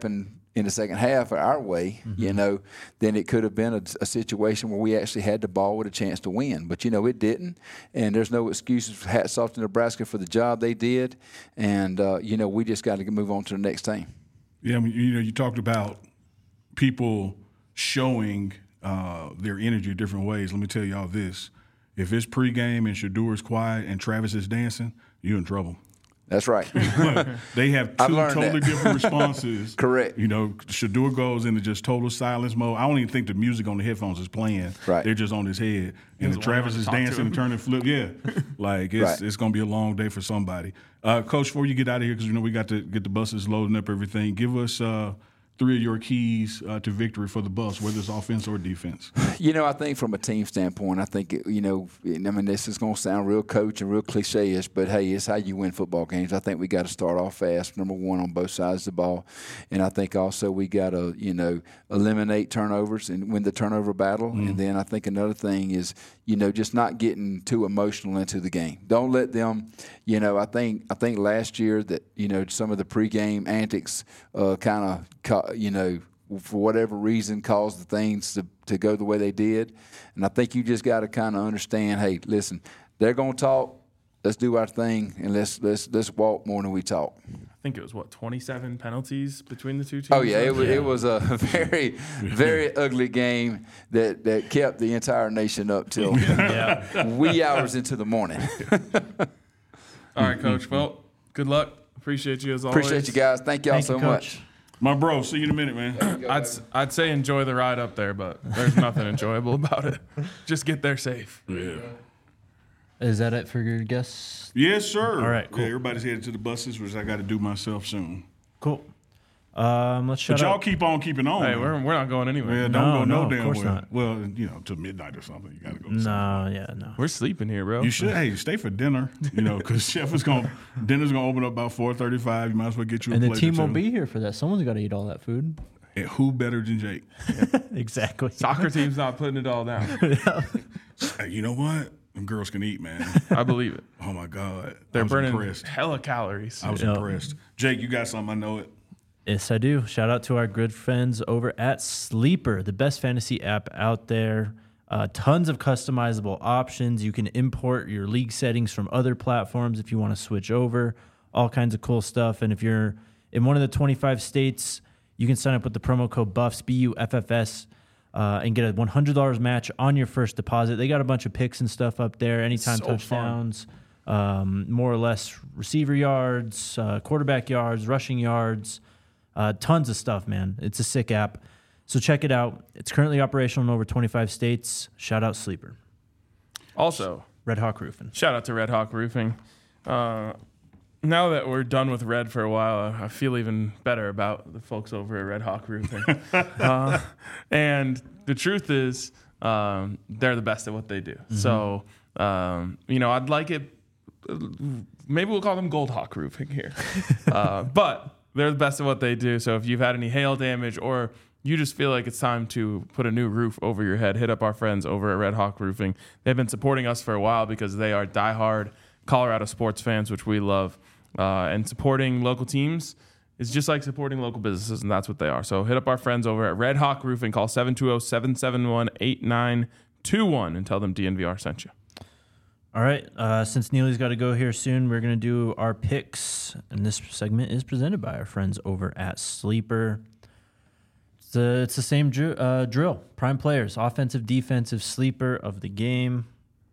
in the second half our way, Mm-hmm. you know, then it could have been a, a situation where we actually had the ball with a chance to win. But, you know, it didn't. And there's no excuses. Hats off to Nebraska for the job they did. And, uh, you know, we just got to move on to the next team. Yeah, I mean, you know, you talked about people showing uh, their energy different ways. Let me tell y'all this. If it's pregame and Shadour's quiet and Travis is dancing, you're in trouble. That's right. They have I've two learned totally that. different responses. Correct. You know, Shadour goes into just total silence mode. I don't even think the music on the headphones is playing. Right. They're just on his head. And the the Travis one is to talk to dancing him. and turning flip. Yeah. Like, it's Right. it's going to be a long day for somebody. Uh, Coach, before you get out of here, because, you know, we got to get the buses loading up everything, give us uh, three of your keys uh, to victory for the Buffs, whether it's offense or defense. You know, I think from a team standpoint, I think, it, you know, I mean, this is going to sound real coach and real cliche-ish, but, hey, it's how you win football games. I think we got to start off fast, number one, on both sides of the ball. And I think also we got to, you know, eliminate turnovers and win the turnover battle. Mm. And then I think another thing is, you know, just not getting too emotional into the game. Don't let them, you know, I think I think last year that, you know, some of the pregame antics uh, kind of, you know, for whatever reason caused the things to, to go the way they did. And I think you just got to kind of understand, hey, listen, they're going to talk. Let's do our thing, and let's let's let's walk more than we talk. I think it was, what, twenty-seven penalties between the two teams? Oh yeah, it was it was a very very ugly game that, that kept the entire nation up till wee hours into the morning. All right, Coach. Well, good luck. Appreciate you as always. Appreciate you guys. Thank y'all Thank so you, Coach. much. My bro, see you in a minute, man. I'd, s- I'd say enjoy the ride up there, but there's nothing enjoyable about it. Just get there safe. Yeah. Is that it for your guests? Yes, sir. All right, cool. Yeah, everybody's headed to the buses, which I got to do myself soon. Cool. Um, let's shut But y'all up. keep on keeping on. Hey, though. we're, we're not going anywhere. Yeah, don't No, go no, no, of damn course well. not. Well, you know, till midnight or something. You got to go. to something. No, yeah, no. We're sleeping here, bro. You should. Hey, stay for dinner. You know, because Chef is going. Dinner's going to open up about four thirty-five. You might as well get you a And the plate team or will two. be here for that. Someone's got to eat all that food. And who better than Jake? Exactly. Soccer team's not putting it all down. Hey, you know what? Them girls can eat, man. I believe it. Oh my God, They're I was burning impressed. hella calories. I was Yeah. impressed. Jake, you got something? I know it. Yes, I do. Shout out to our good friends over at Sleeper, the best fantasy app out there. Uh, tons of customizable options. You can import your league settings from other platforms if you want to switch over. All kinds of cool stuff. And if you're in one of the twenty-five states, you can sign up with the promo code BUFFS, B U F F S, uh, and get a one hundred dollars match on your first deposit. They got a bunch of picks and stuff up there, anytime So fun. touchdowns, um, more or less receiver yards, uh, quarterback yards, rushing yards. Uh, tons of stuff, man. It's a sick app. So check it out. It's currently operational in over twenty-five states. Shout out Sleeper. Also, Red Hawk Roofing. shout out to Red Hawk Roofing. Uh, now that we're done with Red for a while, I feel even better about the folks over at Red Hawk Roofing. uh, and the truth is, um, they're the best at what they do. Mm-hmm. So, um, you know, I'd like it. Maybe we'll call them Gold Hawk Roofing here. uh, but they're the best at what they do. So if you've had any hail damage or you just feel like it's time to put a new roof over your head, hit up our friends over at Red Hawk Roofing. They've been supporting us for a while because they are diehard Colorado sports fans, which we love. Uh, and supporting local teams is just like supporting local businesses, and that's what they are. So hit up our friends over at Red Hawk Roofing. Call seven two zero, seven seven one, eight nine two one and tell them D N V R sent you. All right. Uh, since Neely's got to go here soon, we're going to do our picks. And this segment is presented by our friends over at Sleeper. It's, the it's the same dr- uh, drill. Prime players, offensive, defensive, sleeper of the game.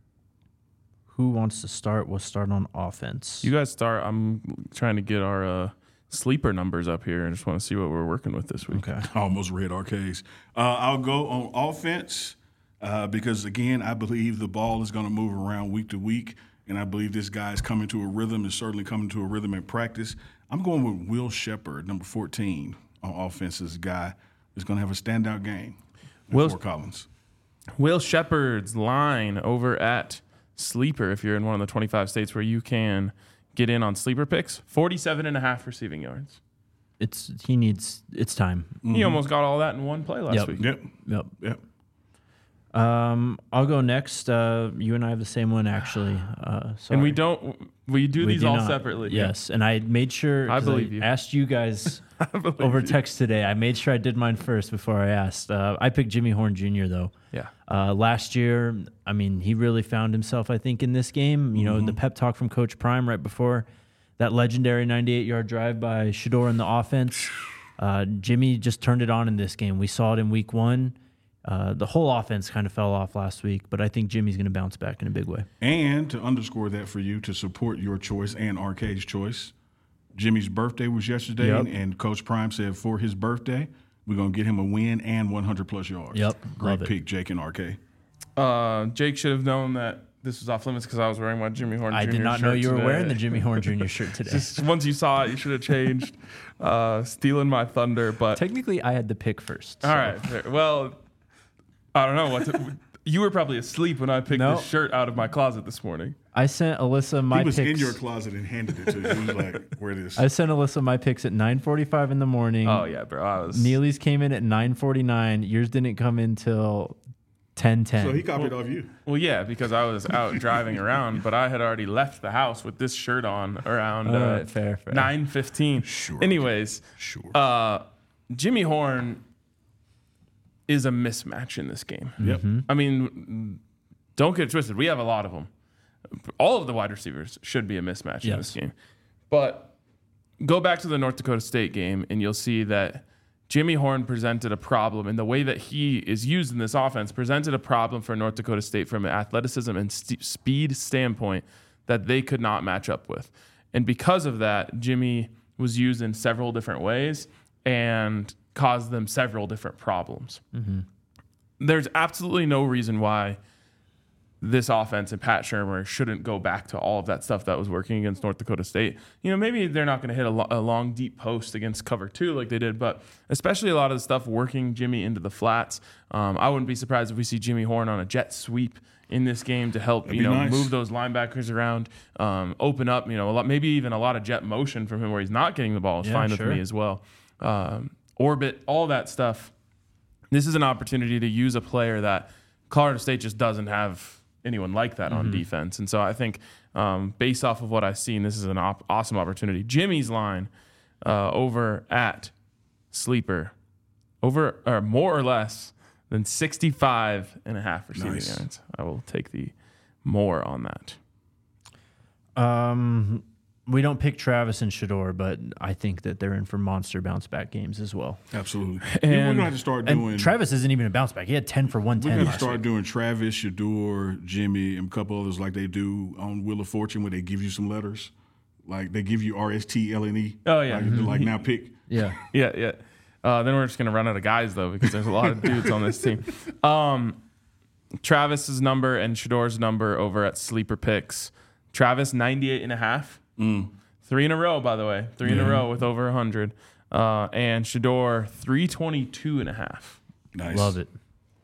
Who wants to start? We'll start on offense. You guys start. I'm trying to get our uh, sleeper numbers up here. I just want to see what we're working with this week. Okay. I almost read arcades. Uh, I'll go on offense uh, because, again, I believe the ball is going to move around week to week, and I believe this guy is coming to a rhythm, is certainly coming to a rhythm in practice. I'm going with Will Shepard, number fourteen on offense. This guy is going to have a standout game Will- for Collins. Will Shepard's line over at Sleeper, if you're in one of the twenty-five states where you can get in on sleeper picks, forty-seven and a half receiving yards. It's he needs it's time. He almost got all that in one play last Yep. week. Yep, Yep. yep. Um, I'll go next. Uh, you and I have the same one, actually. Uh, And we sorry. don't. We do We these do all not. separately. Yes, and I made sure. I 'cause believe you. Asked you guys believe over you. text today. I made sure I did mine first before I asked. Uh, I picked Jimmy Horn Junior though. Yeah. Uh, last year, I mean, he really found himself, I think, in this game. You know, the pep talk from Coach Prime right before that legendary ninety-eight yard drive by Shador in the offense. Uh, Jimmy just turned it on in this game. We saw it in week one. Uh, the whole offense kind of fell off last week, but I think Jimmy's going to bounce back in a big way. And to underscore that for you, to support your choice and Arcade's choice, Jimmy's birthday was yesterday, Yep. and, and Coach Prime said for his birthday, we're going to get him a win and one hundred plus yards. Yep, Great love it. pick, Jake and Arcade. Uh, Jake should have known that this was off limits because I was wearing my Jimmy Horn. I Junior did not know shirt you were today. wearing the Jimmy Horn Junior shirt today. Just once you saw it, you should have changed. Uh, stealing my thunder, but Technically, I had the pick first. all so- right. fair. Well, I don't know what. To, you were probably asleep when I picked No. this shirt out of my closet this morning. I sent Alyssa my he was picks. in your closet and handed it to you. He was like, where it is. I sent Alyssa my picks at nine forty-five in the morning. Oh yeah, bro. I was. Neely's came in at nine forty-nine. Yours didn't come in till ten ten. So he copied off you. Well, yeah, because I was out driving around, but I had already left the house with this shirt on around All uh, right, fair, fair. nine fifteen. Sure. Anyways, Sure. uh, Jimmy Horn is a mismatch in this game. Yep. I mean, don't get it twisted. We have a lot of them. All of the wide receivers should be a mismatch in Yes. this game. But go back to the North Dakota State game, and you'll see that Jimmy Horn presented a problem, and the way that he is used in this offense presented a problem for North Dakota State from an athleticism and st- speed standpoint that they could not match up with. And because of that, Jimmy was used in several different ways and caused them several different problems. There's absolutely no reason why this offense and Pat Shermer shouldn't go back to all of that stuff that was working against North Dakota State. You know, maybe they're not going to hit a, lo- a long, deep post against cover two like they did, but especially a lot of the stuff working Jimmy into the flats. Um, I wouldn't be surprised if we see Jimmy Horn on a jet sweep in this game to help, That'd you be know, nice. move those linebackers around, um, open up, you know, a lot, maybe even a lot of jet motion from him where he's not getting the ball is Yeah, fine sure. with me as well. Um, orbit, all that stuff. This is an opportunity to use a player that Colorado State just doesn't have anyone like that on defense. And so I think um, based off of what I've seen, this is an op- awesome opportunity. Jimmy's line uh, over at Sleeper, over or more or less than sixty-five and a half receiving Nice. yards. I will take the more on that. Um, we don't pick Travis and Shador, but I think that they're in for monster bounce back games as well. Absolutely. And- we're going to have to start And doing. Travis isn't even a bounce back. He had ten for one We're ten going to last start week. doing Travis, Shador, Jimmy, and a couple others like they do on Wheel of Fortune where they give you some letters. Like they give you R S T L N E. Oh, yeah. Like, like now pick. Yeah. Yeah, yeah. Uh, then we're just gonna run out of guys though because there's a lot of dudes on this team. Um, Travis's number and Shador's number over at Sleeper Picks. Travis ninety-eight and a half. Three in a row, by the way. Three in a row with over one hundred. Uh, and Shador three twenty-two and a half. Nice. Love it.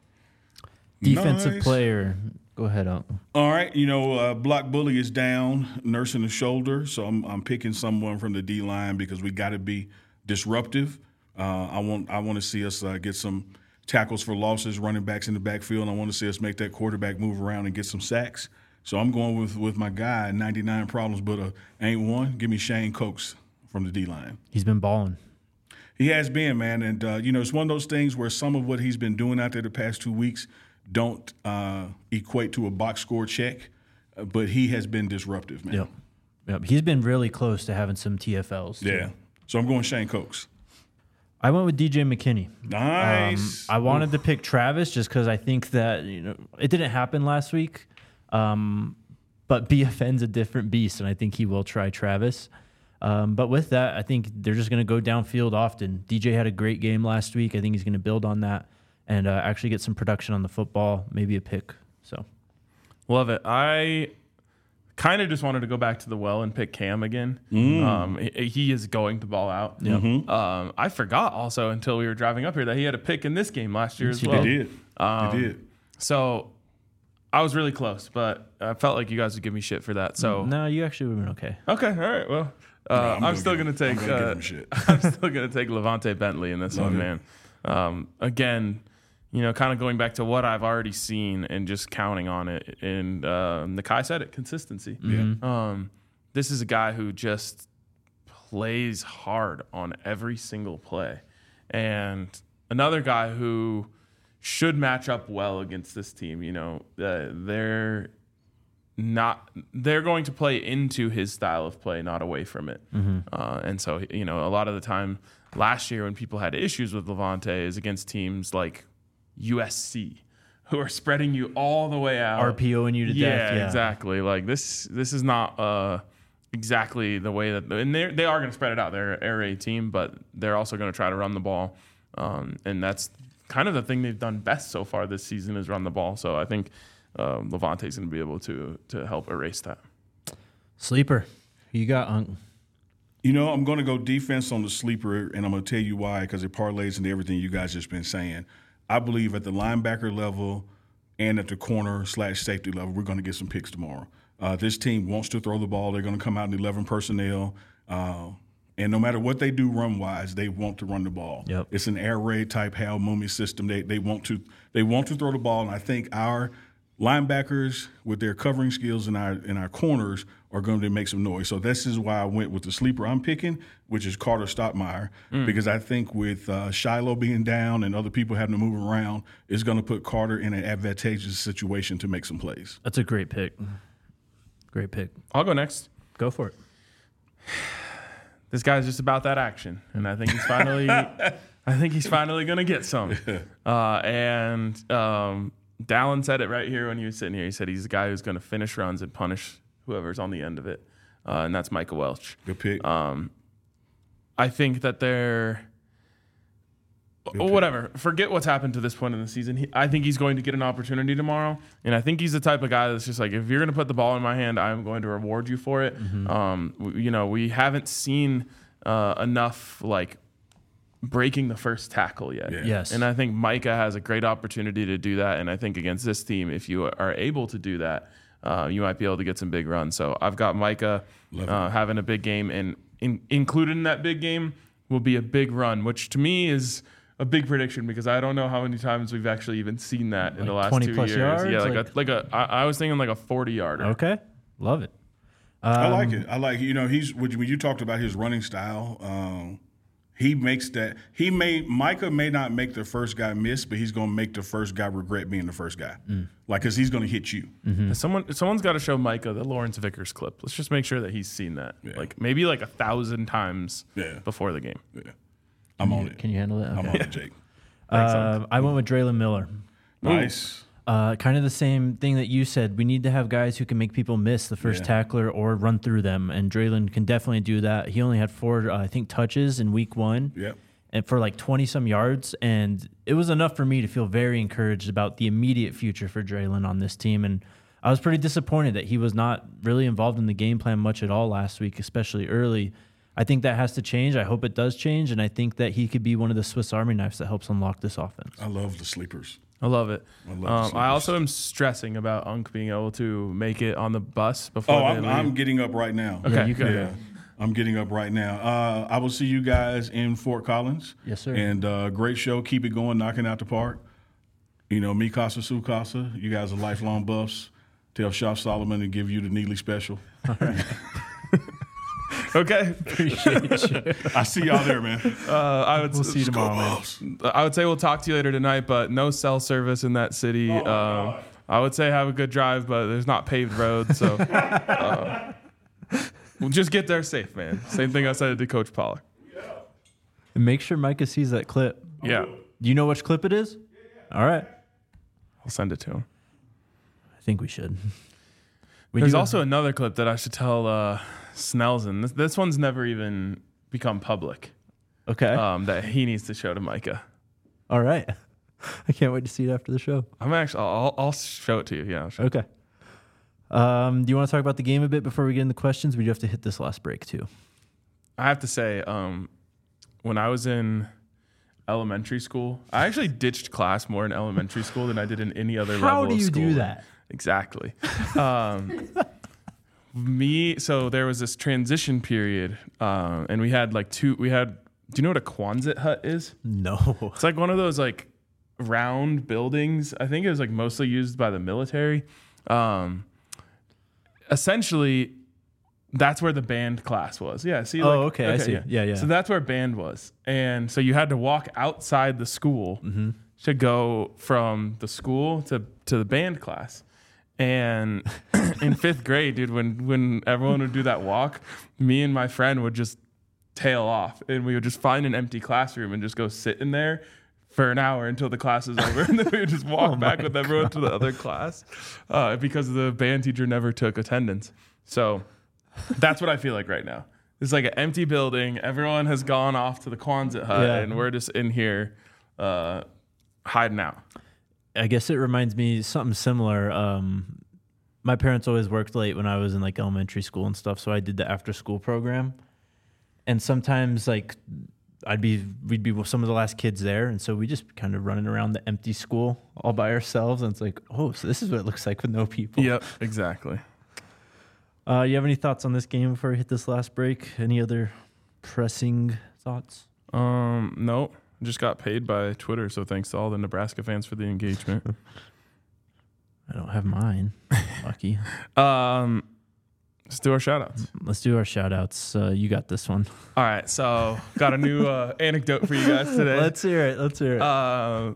Defensive Nice. player. Go ahead, Uncle. All right, you know, uh, Block Bully is down, nursing the shoulder, so I'm I'm picking someone from the D line because we got to be disruptive. Uh, I want I want to see us uh, get some tackles for losses, running backs in the backfield. And I want to see us make that quarterback move around and get some sacks. So I'm going with with my guy, ninety-nine problems, but uh, ain't one. Give me Shane Cokes from the D line. He's been balling. He has been, man, and uh, you know it's one of those things where some of what he's been doing out there the past two weeks don't uh, equate to a box score check, uh, but he has been disruptive, man. Yep. Yep. He's been really close to having some T F Ls. too. Yeah. So I'm going Shane Cokes. I went with D J McKinney. Nice. Um, I wanted to pick Travis just because I think that, you know, it didn't happen last week. Um, but B F N's a different beast, and I think he will try Travis. Um, but with that, I think they're just going to go downfield often. D J had a great game last week. I think he's going to build on that and uh, actually get some production on the football, maybe a pick. So Love it. I kind of just wanted to go back to the well and pick Cam again. Um, he, he is going to ball out. Um, I forgot also until we were driving up here that he had a pick in this game last year as he well. He did. Um, he did. So I was really close, but I felt like you guys would give me shit for that. So no, you actually would have been okay. okay, all right. Well, uh, I'm I'm, gonna still give going to him- take. I'm gonna give uh, him shit. I'm still going to take Levante Bentley in this Love one, it. man. Um, again, you know, kind of going back to what I've already seen and just counting on it. And uh, Nakai said it, consistency. Mm-hmm. Um, this is a guy who just plays hard on every single play. And another guy who should match up well against this team. You know, uh, they're not they're going to play into his style of play, not away from it. Mm-hmm. Uh, and so, you know, a lot of the time last year when people had issues with Levante is against teams like U S C, who are spreading you all the way out, RPOing you to yeah, death. Yeah, exactly. Like this, this is not uh, exactly the way that, and they they are going to spread it out. They're an air raid team, but they're also going to try to run the ball, um, and that's kind of the thing they've done best so far this season is run the ball. So I think um, Levante's going to be able to to help erase that. Sleeper, who you got, Unc? You know, I'm going to go defense on the sleeper, and I'm going to tell you why, because it parlays into everything you guys just been saying. I believe at the linebacker level and at the corner slash safety level, we're going to get some picks tomorrow. Uh, this team wants to throw the ball. They're going to come out in eleven personnel. Uh, and no matter what they do run-wise, they want to run the ball. Yep. It's an air raid type Hal Mummy system. They they want to they want to throw the ball, and I think our linebackers with their covering skills and our and our corners are going to make some noise. So this is why I went with the sleeper I'm picking, which is Carter Stottmeyer, mm. because I think with uh, Shiloh being down and other people having to move around, it's going to put Carter in an advantageous situation to make some plays. That's a great pick. Great pick. I'll go next. Go for it. This guy's just about that action, and I think he's finally, I think he's finally going to get some. Uh, and um, Dallin said it right here when he was sitting here. He said he's the guy who's going to finish runs and punish whoever's on the end of it, uh, and that's Micah Welch. Good pick. Um, I think that they're oh, whatever. Forget what's happened to this point in the season. He, I think he's going to get an opportunity tomorrow, and I think he's the type of guy that's just like, if you're going to put the ball in my hand, I'm going to reward you for it. Mm-hmm. Um, we, you know, we haven't seen uh, enough like breaking the first tackle yet. Yeah. Yes. And I think Micah has a great opportunity to do that. And I think against this team, if you are able to do that, uh, you might be able to get some big runs. So I've got Micah uh, having a big game, and in, included in that big game will be a big run, which to me is a big prediction because I don't know how many times we've actually even seen that in Like the last twenty two plus years. yards? Yeah, like, Like- a like a. I, I was thinking like a forty yarder. Okay. Love it. I like Um, it. I like it. You know, he's when you talked about his running style. Um, he makes that. He may Micah may not make the first guy miss, but he's going to make the first guy regret being the first guy. Mm. Like, because he's going to hit you. Someone someone's got to show Micah the Lawrence Vickers clip. Let's just make sure that he's seen that, Yeah. like maybe like a thousand times Yeah. before the game. Yeah. I'm on it. Can you handle it? I'm Okay. on it, Jake. Uh, I went with Draylon Miller. Nice. Uh, kind of the same thing that you said. We need to have guys who can make people miss the first Yeah. tackler or run through them, and Draylon can definitely do that. He only had four, uh, I think, touches in week one. Yep. And for like twenty some yards, and it was enough for me to feel very encouraged about the immediate future for Draylon on this team. And I was pretty disappointed that he was not really involved in the game plan much at all last week, especially early. I think that has to change. I hope it does change, and I think that he could be one of the Swiss Army knives that helps unlock this offense. I love the sleepers. I love it. I love the um, sleepers. I also am stressing about Unk being able to make it on the bus before Oh, they I'm, leave. I'm getting up right now. Okay. Yeah, you can. Yeah. I'm getting up right now. Uh, I will see you guys in Fort Collins. Yes, sir. And uh, great show. Keep it going, knocking out the park. You know, me casa, su casa. You guys are lifelong buffs. Tell Shop Solomon to give you the Neely special. Okay. Appreciate you. I see y'all there, man. Uh, I would. We'll see you Go tomorrow, man. Buffs. I would say we'll talk to you later tonight, but no cell service in that city. Oh, um, I would say have a good drive, but there's not paved roads, so uh, we'll just get there safe, man. Same thing I said to Coach Pollock. And make sure Micah sees that clip. Yeah, Do you know which clip it is? All right. I'll send it to him. I think we should. We There's do- also another clip that I should tell uh, Snelson. This, this one's never even become public. Okay. Um, that he needs to show to Micah. All right. I can't wait to see it after the show. I'm actually. I'll, I'll show it to you. Yeah. I'll show it. Okay. Um, do you want to talk about the game a bit before we get into questions? We do have to hit this last break too. I have to say, um, when I was in elementary school, I actually ditched class more in elementary school than I did in any other level How of do you school. do that? Exactly. Um, me, so there was this transition period, um, and we had like two. We had. Do you know what a Quonset hut is? No. It's like one of those like round buildings. I think it was like mostly used by the military. Um, essentially, that's where the band class was. Yeah. See. Oh, like, okay, I see. Yeah, yeah. So that's where band was, and so you had to walk outside the school to go from the school to to the band class. And in fifth grade, dude, when when everyone would do that walk, me and my friend would just tail off, and we would just find an empty classroom and just go sit in there for an hour until the class is over, and then we would just walk Oh back my with everyone to the other class uh, because the band teacher never took attendance. So that's what I feel like right now. It's like an empty building. Everyone has gone off to the Quonset hut, Yeah. and we're just in here uh, hiding out. I guess it reminds me something similar. Um, my parents always worked late when I was in like elementary school and stuff, so I did the after school program. And sometimes like I'd be we'd be with some of the last kids there, and so we just kind of running around the empty school all by ourselves, and it's like, oh, so this is what it looks like with no people. Yep, exactly. Uh, you have any thoughts on this game before we hit this last break? Any other pressing thoughts? Um, no, just got paid by Twitter, so thanks to all the Nebraska fans for the engagement. I don't have mine. Lucky. um, let's do our shout outs. Let's do our shout outs. Uh, you got this one. All right, so got a new uh, anecdote for you guys today. Let's hear it. Let's hear it. Uh,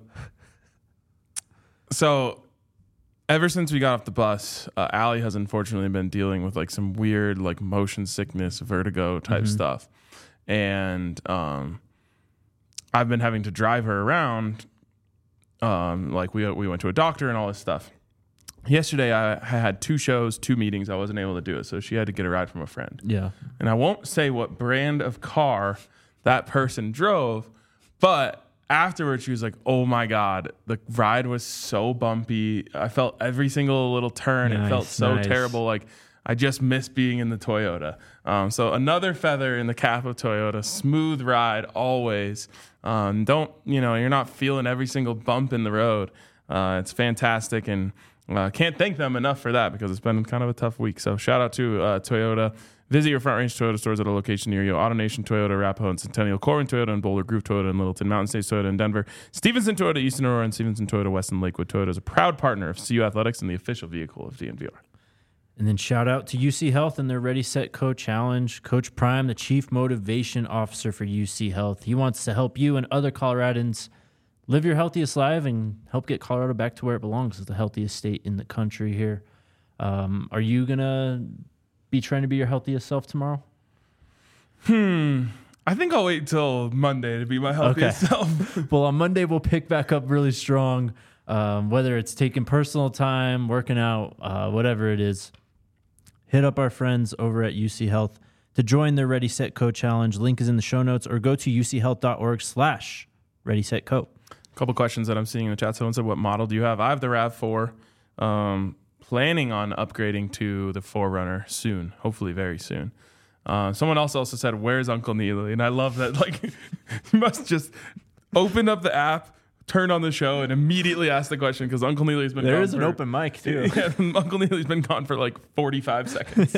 so ever since we got off the bus, uh, Allie has unfortunately been dealing with like some weird like motion sickness, vertigo type Mhm. stuff. And um, I've been having to drive her around. Um, like we we went to a doctor and all this stuff. Yesterday I, I had two shows, two meetings. I wasn't able to do it, so she had to get a ride from a friend. yeah. And I won't say what brand of car that person drove, but afterwards she was like, oh my God, the ride was so bumpy. I felt every single little turn. It felt Nice, so nice. terrible. Like I just miss being in the Toyota. Um, so another feather in the cap of Toyota, smooth ride always. Um, don't, you know, you're not feeling every single bump in the road. Uh, it's fantastic. And uh, can't thank them enough for that because it's been kind of a tough week. So shout out to uh, Toyota. Visit your Front Range Toyota stores at a location near you. AutoNation Toyota, Arapahoe and Centennial, Corwin Toyota, and Boulder, Groove Toyota, and Littleton, Mountain States Toyota in Denver, Stevenson Toyota, Eastern Aurora, and Stevenson Toyota, West and Lakewood. Toyota is a proud partner of C U Athletics and the official vehicle of D N V R. And then shout out to U C Health and their Ready, Set, Co Challenge. Coach Prime, the Chief Motivation Officer for U C Health. He wants to help you and other Coloradans live your healthiest life and help get Colorado back to where it belongs as the healthiest state in the country here. Um, are you going to be trying to be your healthiest self tomorrow? Hmm. I think I'll wait till Monday to be my healthiest Okay. self. Well, on Monday, we'll pick back up really strong, um, whether it's taking personal time, working out, uh, whatever it is. Hit up our friends over at U C Health to join their Ready, Set, Co challenge. Link is in the show notes, or go to uchealth.org slash Ready, Set, Co. Couple questions that I'm seeing in the chat. Someone said, what model do you have? I have the RAV four. Um, planning on upgrading to the four runner soon, hopefully very soon. Uh, someone else also said, where's Uncle Neely? And I love that. Like, you must just open up the app, turn on the show, and immediately ask the question because Uncle Neely's been There gone is an for- open mic, too. Yeah, Uncle Neely's been gone for like forty-five seconds.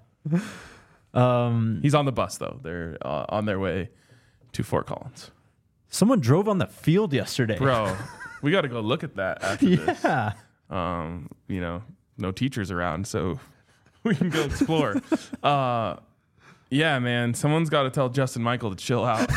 Um, He's on the bus, though. They're uh, on their way to Fort Collins. someone drove on the field yesterday. Bro, we got to go look at that after this. Yeah. Um, you know, no teachers around, so we can go explore. uh, yeah, man, someone's got to tell Justin Michael to chill out.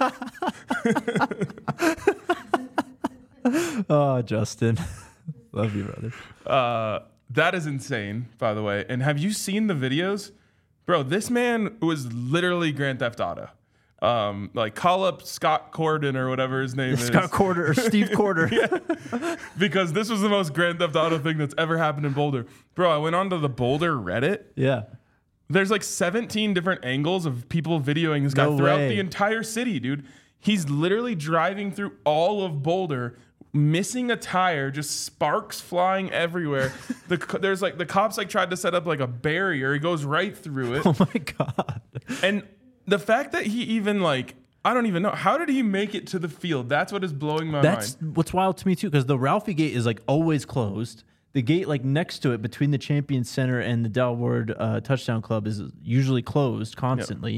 Oh, Justin. Love you, brother. Uh, that is insane, by the way. And have you seen the videos? Bro, this man was literally Grand Theft Auto. Um, like, call up Scott Corden or whatever his name is. Scott Quarter or Steve Quarter. Because this was the most Grand Theft Auto thing that's ever happened in Boulder. Bro, I went onto the Boulder Reddit. Yeah. There's like seventeen different angles of people videoing this guy No throughout way. the entire city, dude. He's literally driving through all of Boulder, missing a tire, just sparks flying everywhere. the co- there's like the cops like tried to set up like a barrier. He goes right through it. Oh, my God. And the fact that he even like I don't even know how did he make it to the field? That's what is blowing my That's mind. what's wild to me, too, because the Ralphie Gate is like always closed. The gate like next to it between the Champion Center and the Del Ward uh, Touchdown Club is usually closed constantly.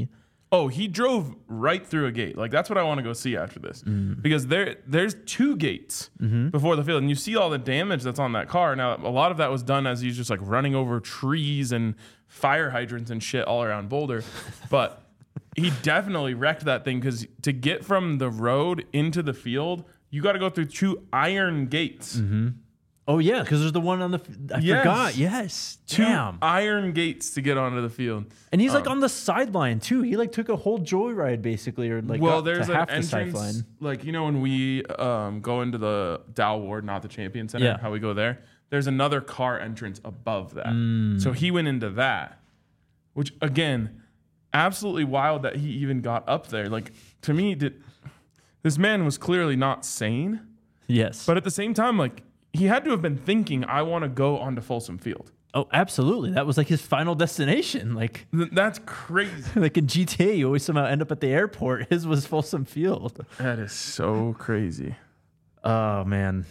Oh, he drove right through a gate. Like, that's what I want to go see after this. Mm. Because there, there's two gates Mm-hmm. before the field, and you see all the damage that's on that car. Now, a lot of that was done as he's just like running over trees and fire hydrants and shit all around Boulder. But he definitely wrecked that thing, because to get from the road into the field, you got to go through two iron gates. Mm-hmm. Oh yeah, because there's the one on the. I Yes. forgot. Yes. Two Damn. iron gates to get onto the field. And he's like Um, on the sideline too. He like took a whole joyride basically, or like well, got there's to an half the entrance, sideline. like, you know, when we um, go into the Dow Ward, not the Champion Center, Yeah. how we go there, there's another car entrance above that. Mm. So he went into that, which, again, absolutely wild that he even got up there. Like, to me, did, this man was clearly not sane, Yes. but at the same time, like, he had to have been thinking, I want to go onto Folsom Field. oh, absolutely. That was like his final destination. Like Th- that's crazy. like in G T A, you always somehow end up at the airport. His was Folsom Field. That is so crazy. Oh man.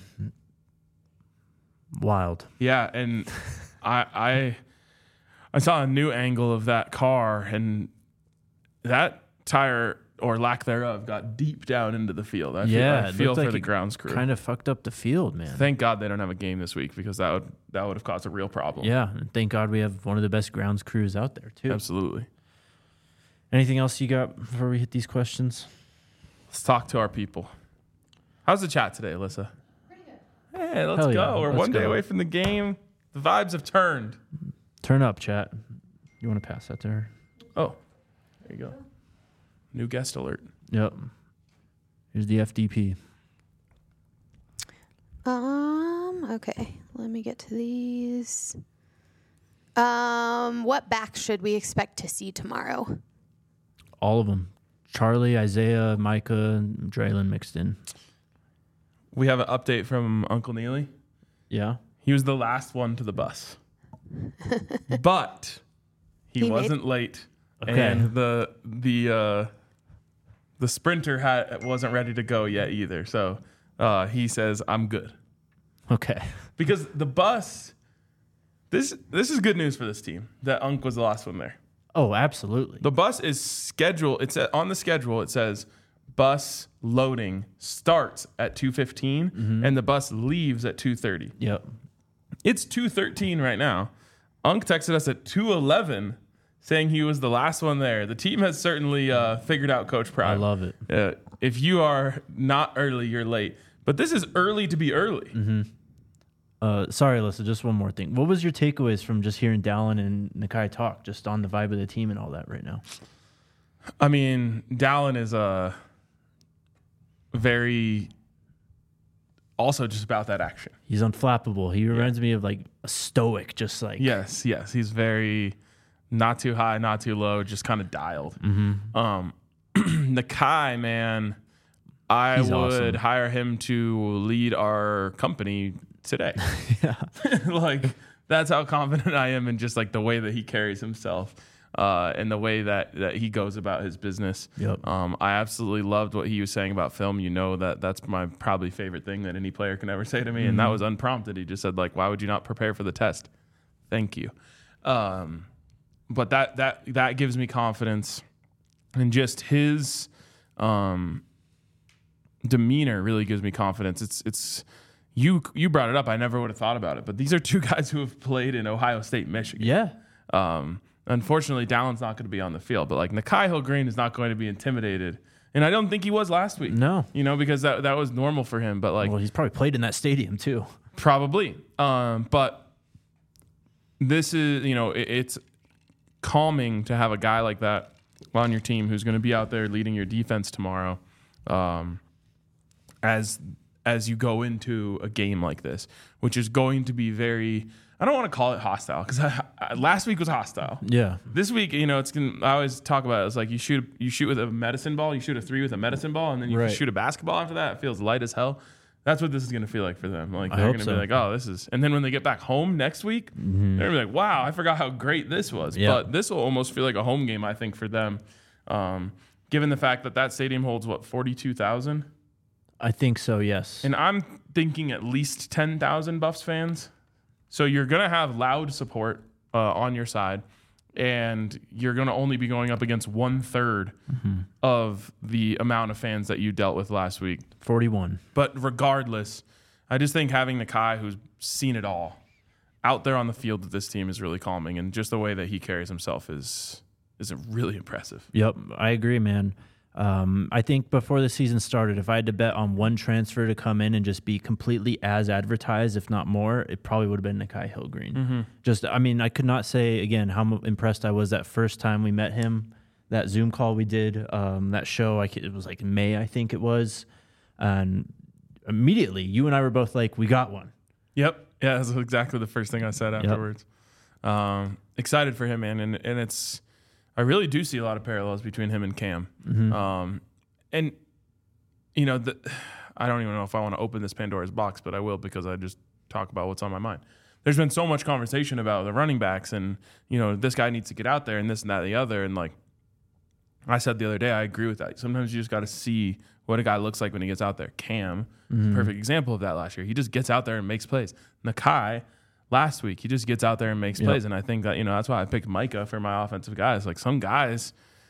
Wild. Yeah, and I I I saw a new angle of that car, and that tire or lack thereof got deep down into the field. I Yeah, feel, I it feel looked for like the it grounds crew. Kind of fucked up the field, man. Thank God they don't have a game this week, because that would that would have caused a real problem. Yeah, and thank God we have one of the best grounds crews out there too. Absolutely. Anything else you got before we hit these questions? Let's talk to our people. How's the chat today, Alyssa? Pretty good. Hey, let's Hell go. yeah, We're let's one day go. away from the game. The vibes have turned. Turn up, chat. You want to pass that to her? Oh, there you go. New guest alert. Yep. Here's the F D P. Um, okay. Let me get to these. Um, what backs should we expect to see tomorrow? All of them. Charlie, Isaiah, Micah, and Draylon mixed in. We have an update from Uncle Neely. Yeah. He was the last one to the bus, but he, He made- wasn't late, Okay. and the the uh, the sprinter had wasn't ready to go yet either. So uh, he says, "I'm good," Okay. because the bus. This this is good news for this team that Unc was the last one there. Oh, absolutely. The bus is scheduled. It's at, on the schedule. It says bus loading starts at two fifteen, Mm-hmm. and the bus leaves at two thirty. Yep. It's two thirteen right now. Unc texted us at two eleven saying he was the last one there. The team has certainly uh, figured out Coach Prime. I love it. Uh, if you are not early, you're late. But this is early to be early. Mm-hmm. Uh, sorry, Alyssa, just one more thing. What was your takeaways from just hearing Dallin and Nakai talk, just on the vibe of the team and all that right now? I mean, Dallin is a very also just about that action. He's unflappable. He reminds me of like a stoic, just like Yes, yes. He's very not too high, not too low, just kind of dialed. Mm-hmm. Um, Nakai, man, I He's would awesome. hire him to lead our company today. yeah. Like, that's how confident I am in just like the way that he carries himself. Uh, and the way that, that he goes about his business. Yep. Um, I absolutely loved what he was saying about film. You know that that's my probably favorite thing that any player can ever say to me, Mm-hmm. and that was unprompted. He just said, like, "Why would you not prepare for the test?" Thank you. Um, but that that that gives me confidence, and just his um, demeanor really gives me confidence. It's it's you you brought it up. I never would have thought about it, but these are two guys who have played in Ohio State, Michigan. Yeah. Um, unfortunately, Dallin's not going to be on the field, but like Nakai Hill-Green is not going to be intimidated, and I don't think he was last week. No. you know, because that that was normal for him. But like Well, he's probably played in that stadium too. probably, um, but this is you know it, it's calming to have a guy like that on your team who's going to be out there leading your defense tomorrow, um, as as you go into a game like this, which is going to be very. I don't want to call it hostile because last week was hostile. Yeah. This week, you know, it's gonna, I always talk about it. It's like you shoot you shoot with a medicine ball, you shoot a three with a medicine ball, and then you Right. shoot a basketball after that. It feels light as hell. That's what this is gonna feel like for them. Like I they're hope gonna so. be like, oh, this is. And then when they get back home next week, Mm-hmm. they're gonna be like, wow, I forgot how great this was. Yeah. But this will almost feel like a home game, I think, for them, um, given the fact that that stadium holds what forty-two thousand, I think so, yes. and I'm thinking at least ten thousand Buffs fans. So you're going to have loud support uh, on your side. and you're going to only be going up against one third Mm-hmm. of the amount of fans that you dealt with last week. forty-one. But regardless, I just think having Nakai, who's seen it all, out there on the field with this team is really calming, and just the way that he carries himself is is really impressive. Yep, I agree, man. Um, I think before the season started, if I had to bet on one transfer to come in and just be completely as advertised, if not more, it probably would have been Nakai Hillgreen. Mm-hmm. Just, I mean, I could not say again how m- impressed I was that first time we met him. That Zoom call we did, um, that show, I c- it was like in May, I think it was, and immediately you and I were both like, "We got one." Yep. Yeah, that's exactly the first thing I said afterwards. Yep. Um, excited for him, man, and and it's. I really do see a lot of parallels between him and Cam. Mm-hmm. Um, and, you know, the, I don't even know if I want to open this Pandora's box, but I will because I just talk about what's on my mind. There's been so much conversation about the running backs and, you know, this guy needs to get out there and this and that and the other. And, like I said the other day, I agree with that. Sometimes you just got to see what a guy looks like when he gets out there. Cam, Mm-hmm. perfect example of that last year. He just gets out there and makes plays. Nakai, last week, he just gets out there and makes Yep. plays. And I think that, you know, that's why I picked Micah for my offensive guys. Like, some guys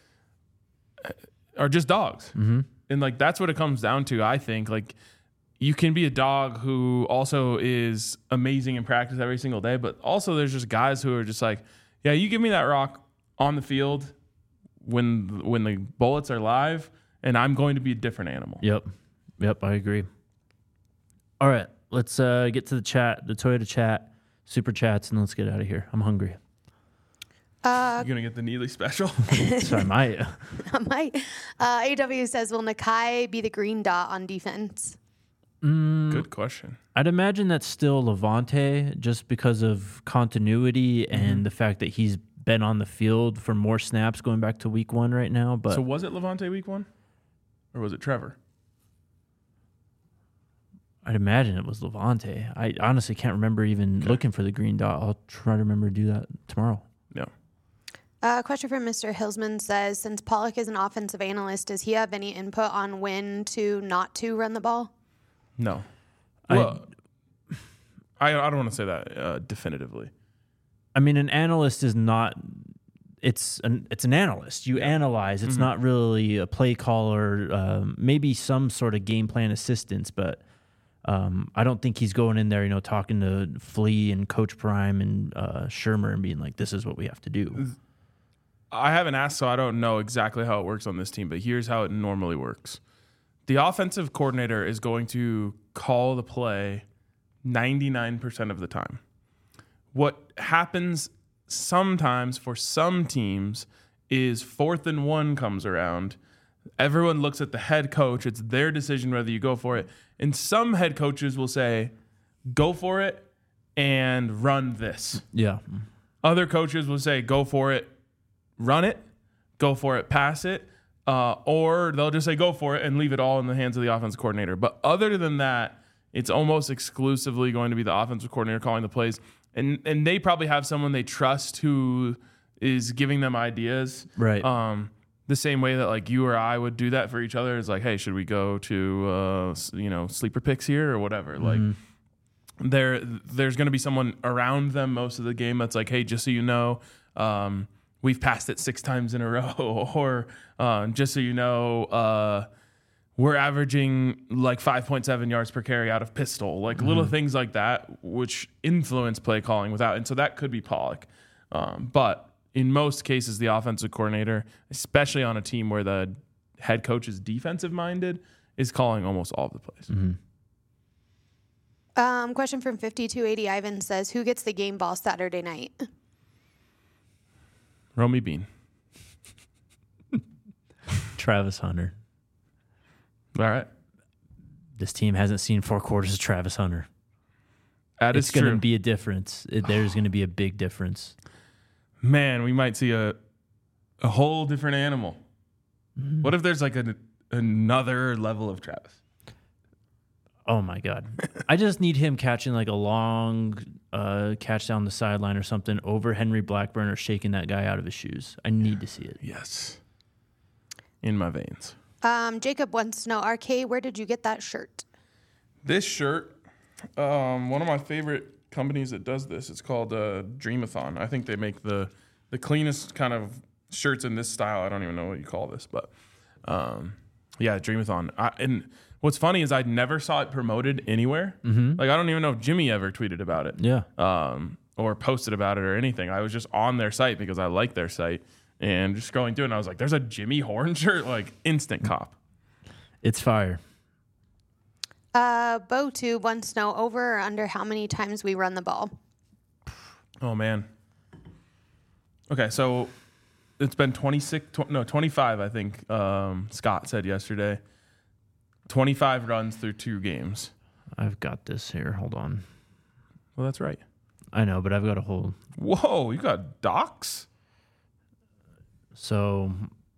are just dogs. Mm-hmm. And, like, that's what it comes down to, I think. Like, you can be a dog who also is amazing in practice every single day, but also there's just guys who are just like, yeah, you give me that rock on the field when when the bullets are live, and I'm going to be a different animal. Yep. Yep, I agree. All right, let's uh, get to the chat, the Toyota chat, super chats, and let's get out of here. I'm hungry. Uh, You're going to get the Neely special? So I might. I might. Uh, A W says, will Nakai be the green dot on defense? Mm, Good question. I'd imagine that's still Levante just because of continuity and the fact that he's been on the field for more snaps going back to week one right now. But So was it Levante week one? Or was it Trevor? I'd imagine it was Levante. I honestly can't remember even Okay. looking for the green dot. I'll try to remember to do that tomorrow. Yeah. A uh, question from Mister Hilsman says, since Pollock is an offensive analyst, does he have any input on when to not to run the ball? No. I- Well, I, I don't want to say that uh, definitively. I mean, an analyst is not. It's an it's an analyst. You analyze. It's not really a play caller. Um, maybe some sort of game plan assistance, but um, I don't think he's going in there, you know, talking to Flea and Coach Prime and uh, Shermer and being like, "This is what we have to do." I haven't asked, so I don't know exactly how it works on this team, but here's how it normally works. The offensive coordinator is going to call the play ninety-nine percent of the time. What happens sometimes for some teams is fourth and one comes around. Everyone looks at the head coach. It's their decision whether you go for it. And some head coaches will say, go for it and run this. Yeah, Other coaches will say, go for it, run it, go for it, pass it, uh, or they'll just say, go for it and leave it all in the hands of the offensive coordinator. But other than that, it's almost exclusively going to be the offensive coordinator calling the plays. And and they probably have someone they trust who is giving them ideas. right. Um, the same way that like you or I would do that for each other is like, hey, should we go to uh, s- you know sleeper picks here or whatever? Like there there's going to be someone around them most of the game that's like, hey, just so you know, um, we've passed it six times in a row, or uh, just so you know, uh, we're averaging like five point seven yards per carry out of pistol, like little things like that, which influence play calling without. And so that could be Pollock. Um, but in most cases, the offensive coordinator, especially on a team where the head coach is defensive minded, is calling almost all of the plays. Um, question from fifty-two eighty Ivan says, who gets the game ball Saturday night? Romy Bean. Travis Hunter. All right. This team hasn't seen four quarters of Travis Hunter. That is It's going to true. be a difference. It, there's going to be a big difference. Man, we might see a a whole different animal. What if there's like a, another level of Travis? Oh my God. I just need him catching like a long uh, catch down the sideline or something over Henry Blackburn or shaking that guy out of his shoes. I need to see it. Yes. In my veins. Um, Jacob wants to know, R K, where did you get that shirt? This shirt, um, one of my favorite companies that does this, it's called uh, Dreamathon. I think they make the the cleanest kind of shirts in this style. I don't even know what you call this, but um, yeah, Dreamathon. I, and what's funny is I never saw it promoted anywhere. Mm-hmm. Like I don't even know if Jimmy ever tweeted about it. Yeah. Um, or posted about it or anything. I was just on their site because I like their site and just scrolling through it, and I was like, there's a Jimmy Horn shirt, like instant cop. It's fire. Uh, Bo two wants to know over or under how many times we run the ball. Oh man. Okay, so it's been twenty-six, tw- no, twenty-five, I think um, Scott said yesterday. twenty-five runs through two games. I've got this here. Hold on. Well, that's right. I know, but I've got a whole. Whoa, you got docs? So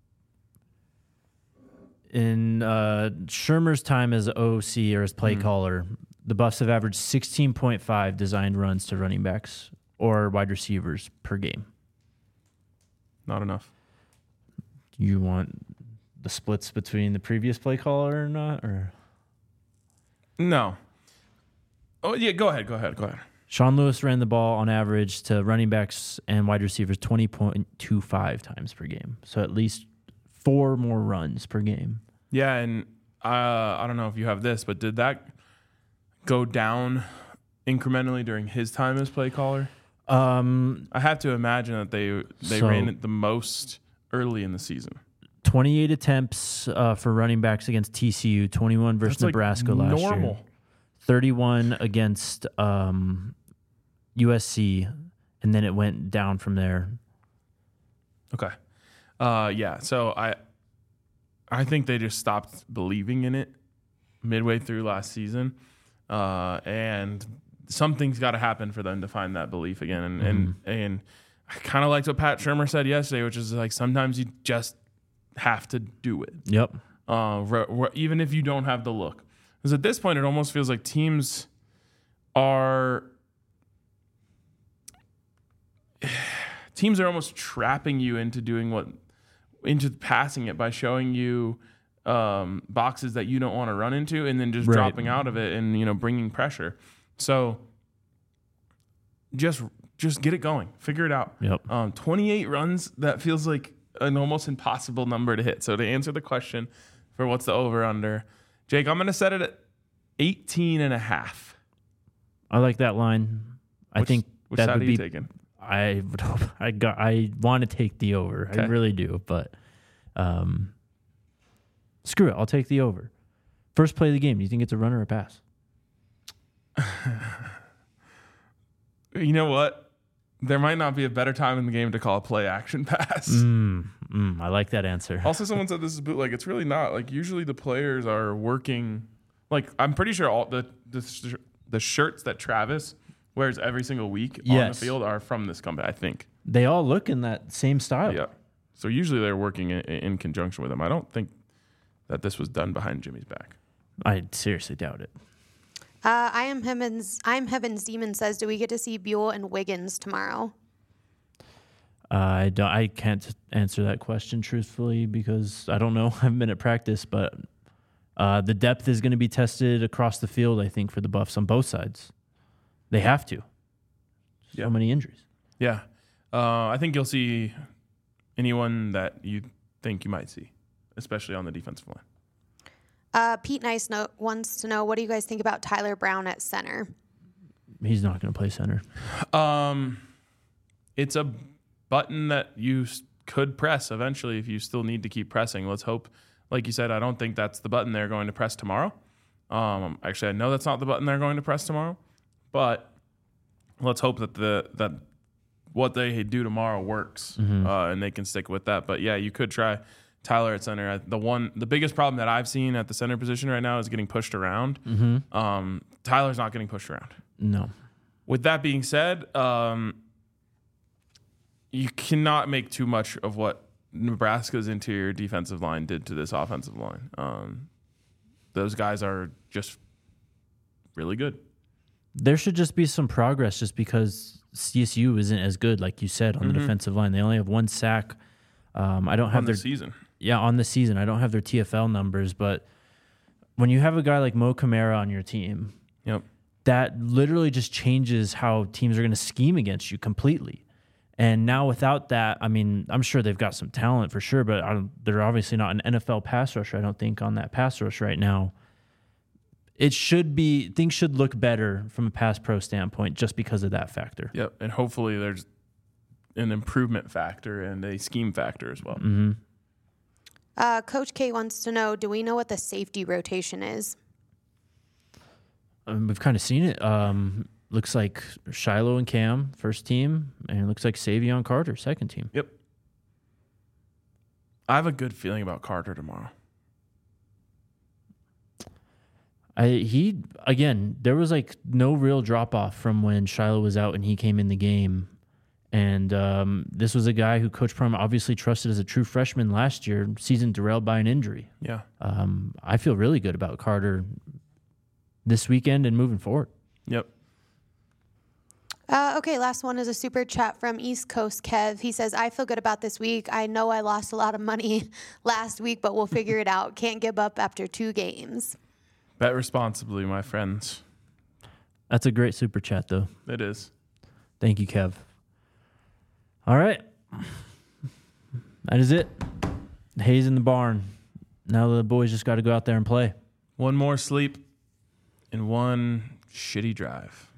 in uh, Shermer's time as O C or as play Mm-hmm. caller, the Buffs have averaged sixteen point five designed runs to running backs or wide receivers per game. Not enough. You want the splits between the previous play caller or not? Or No. Oh, yeah, go ahead, go ahead, go ahead. Sean Lewis ran the ball on average to running backs and wide receivers twenty point two five times per game. So at least four more runs per game. Yeah, and uh, I don't know if you have this, but did that go down incrementally during his time as play caller? Um, I have to imagine that they they So- ran it the most early in the season. twenty-eight attempts uh, for running backs against T C U, twenty-one versus That's like Nebraska last normal. year, thirty-one against um, U S C, and then it went down from there. Okay. Uh, yeah. So I, I think they just stopped believing in it midway through last season, uh, and something's got to happen for them to find that belief again. And and and I kind of liked what Pat Shermer said yesterday, which is like sometimes you just have to do it, Yep. uh, re- re- even if you don't have the look. Because at this point, it almost feels like teams are. Teams are almost trapping you into doing what, into passing it by showing you um, boxes that you don't want to run into, and then just Right. dropping out of it and you know bringing pressure. So just just get it going, figure it out. Yep. Um, twenty-eight runs, that feels like an almost impossible number to hit. So to answer the question for what's the over under, Jake, I'm going to set it at eighteen and a half. I like that line. I Which- think which that side would are you be. taking? I would hope. I got. I want to take the over. I Okay. really do, but um, screw it. I'll take the over. First play of the game. Do you think it's a run or a pass? You know what? There might not be a better time in the game to call a play action pass. Mm, mm, I like that answer. Also, someone said this is bootleg. It's really not. Like usually the players are working. Like I'm pretty sure all the the, sh- the shirts that Travis wears every single week on Yes. the field are from this company. I think. They all look in that same style. Yeah. So usually they're working in, in conjunction with him. I don't think that this was done behind Jimmy's back. I seriously doubt it. Uh, I am Heavens. I'm Heavens Demon says, do we get to see Buell and Wiggins tomorrow? Uh, I don't. I can't answer that question truthfully because I don't know. I haven't been at practice, but uh, the depth is going to be tested across the field. I think for the Buffs on both sides, they have to. So Yeah. many injuries. Yeah. Uh, I think you'll see anyone that you think you might see, especially on the defensive line. Uh, Pete Nice no- wants to know, what do you guys think about Tyler Brown at center? He's not going to play center. Um, it's a button that you s- could press eventually if you still need to keep pressing. Let's hope, like you said, I don't think that's the button they're going to press tomorrow. Um, actually, I know that's not the button they're going to press tomorrow, but let's hope that the that what they do tomorrow works uh, and they can stick with that. But yeah, you could try Tyler at center. The one, the biggest problem that I've seen at the center position right now is getting pushed around. Um, Tyler's not getting pushed around. No. With that being said, um, you cannot make too much of what Nebraska's interior defensive line did to this offensive line. Um, those guys are just really good. There should just be some progress just because C S U isn't as good, like you said, on the defensive line. They only have one sack. Um, I don't have On their the season. Yeah, on the season. I don't have their T F L numbers, but when you have a guy like Mo Camara on your team, Yep. that literally just changes how teams are going to scheme against you completely. And now without that, I mean, I'm sure they've got some talent for sure, but I don't, they're obviously not an N F L pass rusher, I don't think, on that pass rush right now. It should be, things should look better from a pass pro standpoint just because of that factor. Yep, and hopefully there's an improvement factor and a scheme factor as well. Mm-hmm. Uh, Coach K wants to know, do we know what the safety rotation is? Um, we've kind of seen it. Um, looks like Shiloh and Cam, first team, and it looks like Savion Carter, second team. Yep. I have a good feeling about Carter tomorrow. I he again, there was like no real drop off from when Shiloh was out and he came in the game. And um, this was a guy who Coach Prum obviously trusted as a true freshman last year, season derailed by an injury. Yeah. Um, I feel really good about Carter this weekend and moving forward. Yep. Uh, okay, last one is a super chat from East Coast Kev. He says, I feel good about this week. I know I lost a lot of money last week, but we'll figure it out. Can't give up after two games. Bet responsibly, my friends. That's a great super chat, though. It is. Thank you, Kev. All right. That is it. Hayes in the barn. Now the boys just got to go out there and play. One more sleep and one shitty drive.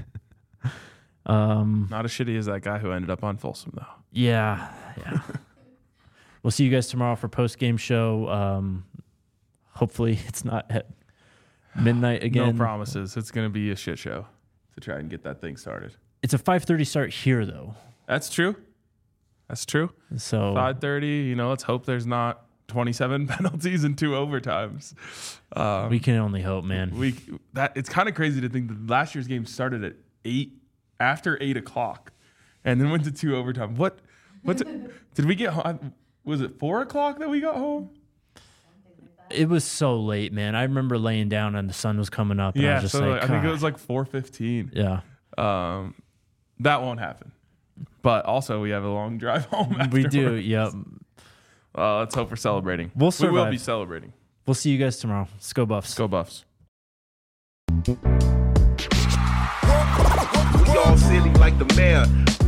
Um, Not as shitty as that guy who ended up on Folsom, though. yeah, yeah. We'll see you guys tomorrow for post-game show. Um, hopefully it's not at midnight again. No promises. It's going to be a shit show to try and get that thing started. It's a five thirty start here, though. That's true. That's true. So five thirty, you know, let's hope there's not twenty-seven penalties and two overtimes. Um, we can only hope, man. we that It's kind of crazy to think that last year's game started at eight, after eight o'clock, and then went to two overtime. What? What? Did we get home? Was it four o'clock that we got home? It was so late, man. I remember laying down and the sun was coming up. And I Yeah, was just so like, I think it "God." was like four fifteen. Yeah. Um, that won't happen. But also, we have a long drive home. We do. afterwards. Yep. Uh, let's hope we're celebrating. We'll We will survive. be celebrating. We'll see you guys tomorrow. Let's go Buffs. Go Buffs. We all silly like the mayor.